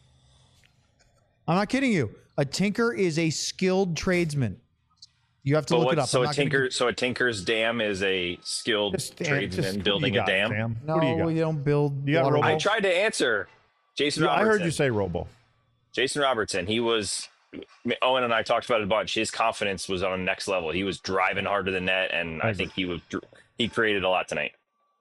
Speaker 3: I'm not kidding you. A tinker is a skilled tradesman. You have to look it up.
Speaker 6: So
Speaker 3: I'm
Speaker 6: a
Speaker 3: not gonna
Speaker 6: tinker, so a tinker's dam is a skilled
Speaker 1: what
Speaker 6: tradesman
Speaker 1: do you
Speaker 6: building a
Speaker 1: got,
Speaker 6: dam.
Speaker 1: Sam?
Speaker 3: No,
Speaker 1: What do you got?
Speaker 3: you don't build.
Speaker 1: You got
Speaker 3: water
Speaker 1: Robo?
Speaker 6: I
Speaker 3: wells.
Speaker 6: tried to answer Jason
Speaker 1: Yeah, I
Speaker 6: Robertson.
Speaker 1: heard you say Robo.
Speaker 6: Jason Robertson. He was. Owen and I talked about it a bunch. His confidence was on the next level. He was driving hard to the net, and I think he created a lot tonight.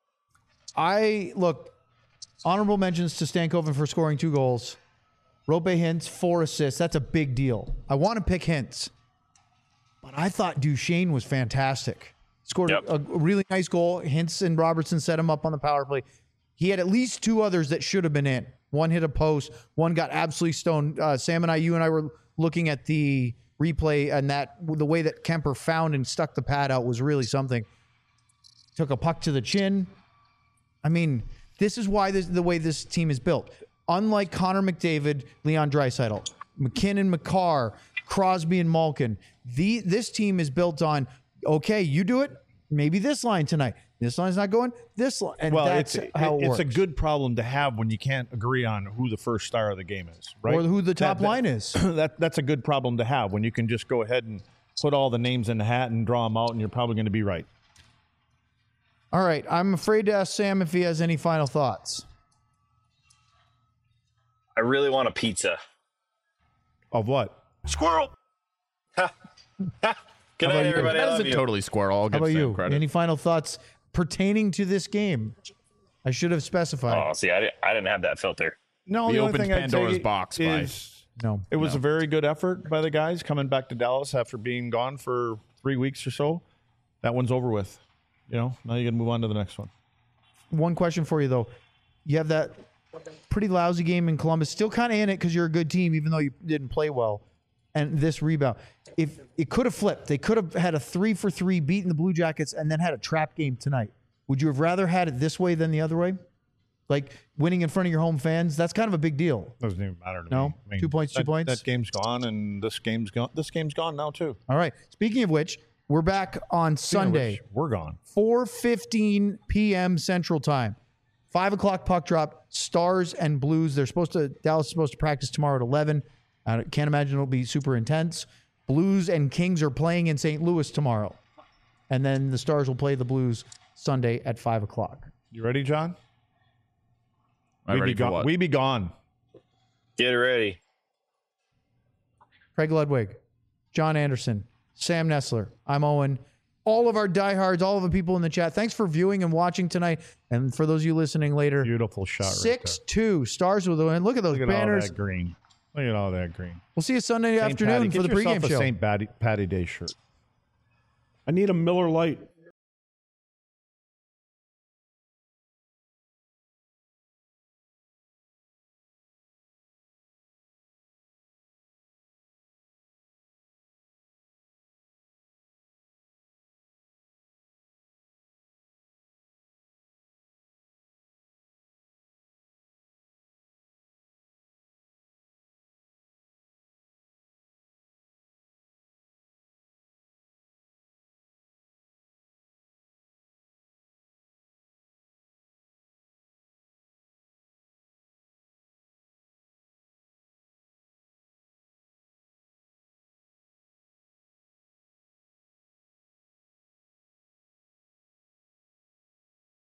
Speaker 3: Honorable mentions to Stankoven for scoring 2 goals. Rope Hintz, 4 assists. That's a big deal. I want to pick Hintz, but I thought Duchesne was fantastic. Scored
Speaker 6: Yep.
Speaker 3: a really nice goal. Hintz and Robertson set him up on the power play. He had at least 2 others that should have been in. One hit a post. One got absolutely stoned. Sam and you and I were looking at the replay, and the way that Kemper found and stuck the pad out was really something. Took a puck to the chin. I mean, this is why the way this team is built. Unlike Connor McDavid, Leon Draisaitl, McKinnon, McCarr, Crosby, and Malkin, this team is built on, okay, you do it, maybe this line tonight. This line's not going, this line. And that's how it works.
Speaker 1: It's a good problem to have when you can't agree on who the first star of the game is, right?
Speaker 3: Or who the top line is.
Speaker 1: That's a good problem to have when you can just go ahead and put all the names in the hat and draw them out, and you're probably going to be right.
Speaker 3: All right, I'm afraid to ask Sam if he has any final thoughts.
Speaker 6: I really want a pizza.
Speaker 1: Of what?
Speaker 6: Squirrel. Good
Speaker 3: about
Speaker 6: night,
Speaker 3: you?
Speaker 6: everybody. I
Speaker 2: That
Speaker 6: love
Speaker 2: isn't
Speaker 6: you.
Speaker 2: totally squirrel. I'll
Speaker 3: How
Speaker 2: give
Speaker 3: about
Speaker 2: Sam
Speaker 3: you?
Speaker 2: credit.
Speaker 3: Any final thoughts pertaining to this game? I should have specified.
Speaker 6: Oh, see, I didn't have that filter.
Speaker 1: No,
Speaker 2: We
Speaker 1: the only
Speaker 2: opened
Speaker 1: thing I'd
Speaker 2: Pandora's
Speaker 1: say
Speaker 2: box by-
Speaker 1: is
Speaker 3: No.
Speaker 1: it was a very good effort by the guys coming back to Dallas after being gone for 3 weeks or so. That one's over with. Now you got to move on to the next one.
Speaker 3: One question for you, though. You have that pretty lousy game in Columbus. Still kind of in it because you're a good team, even though you didn't play well. And this rebound. If it could have flipped, they could have had a 3-for-3, beaten the Blue Jackets, and then had a trap game tonight. Would you have rather had it this way than the other way? Like winning in front of your home fans? That's kind of a big deal.
Speaker 1: Doesn't even matter to
Speaker 3: No?
Speaker 1: me. I mean,
Speaker 3: 2 points, 2 points?
Speaker 1: That game's gone, and this game's gone. This game's gone now too.
Speaker 3: All right. Speaking of which, we're back on Sunday.
Speaker 1: Which, we're gone.
Speaker 3: 4:15 p.m. Central Time. 5 o'clock puck drop. Stars and Blues. Dallas is supposed to practice tomorrow at 11. I can't imagine it'll be super intense. Blues and Kings are playing in St. Louis tomorrow. And then the Stars will play the Blues Sunday at 5 o'clock.
Speaker 1: You ready, John?
Speaker 2: I'm ready for what?
Speaker 1: We be gone.
Speaker 6: Get ready.
Speaker 3: Craig Ludwig, John Anderson, Sam Nessler, I'm Owen. All of our diehards, all of the people in the chat, thanks for viewing and watching tonight. And for those of you listening later,
Speaker 1: Beautiful shot right
Speaker 3: 6-2 Stars with the win. Look at those
Speaker 1: there. Look at all
Speaker 3: banners.
Speaker 1: that green. Look at all that green.
Speaker 3: We'll see you Sunday
Speaker 1: St.
Speaker 3: afternoon
Speaker 1: Patty.
Speaker 3: for the
Speaker 1: Get yourself
Speaker 3: pregame
Speaker 1: a
Speaker 3: show.
Speaker 1: St. Patty Day shirt.
Speaker 7: I need a Miller Lite.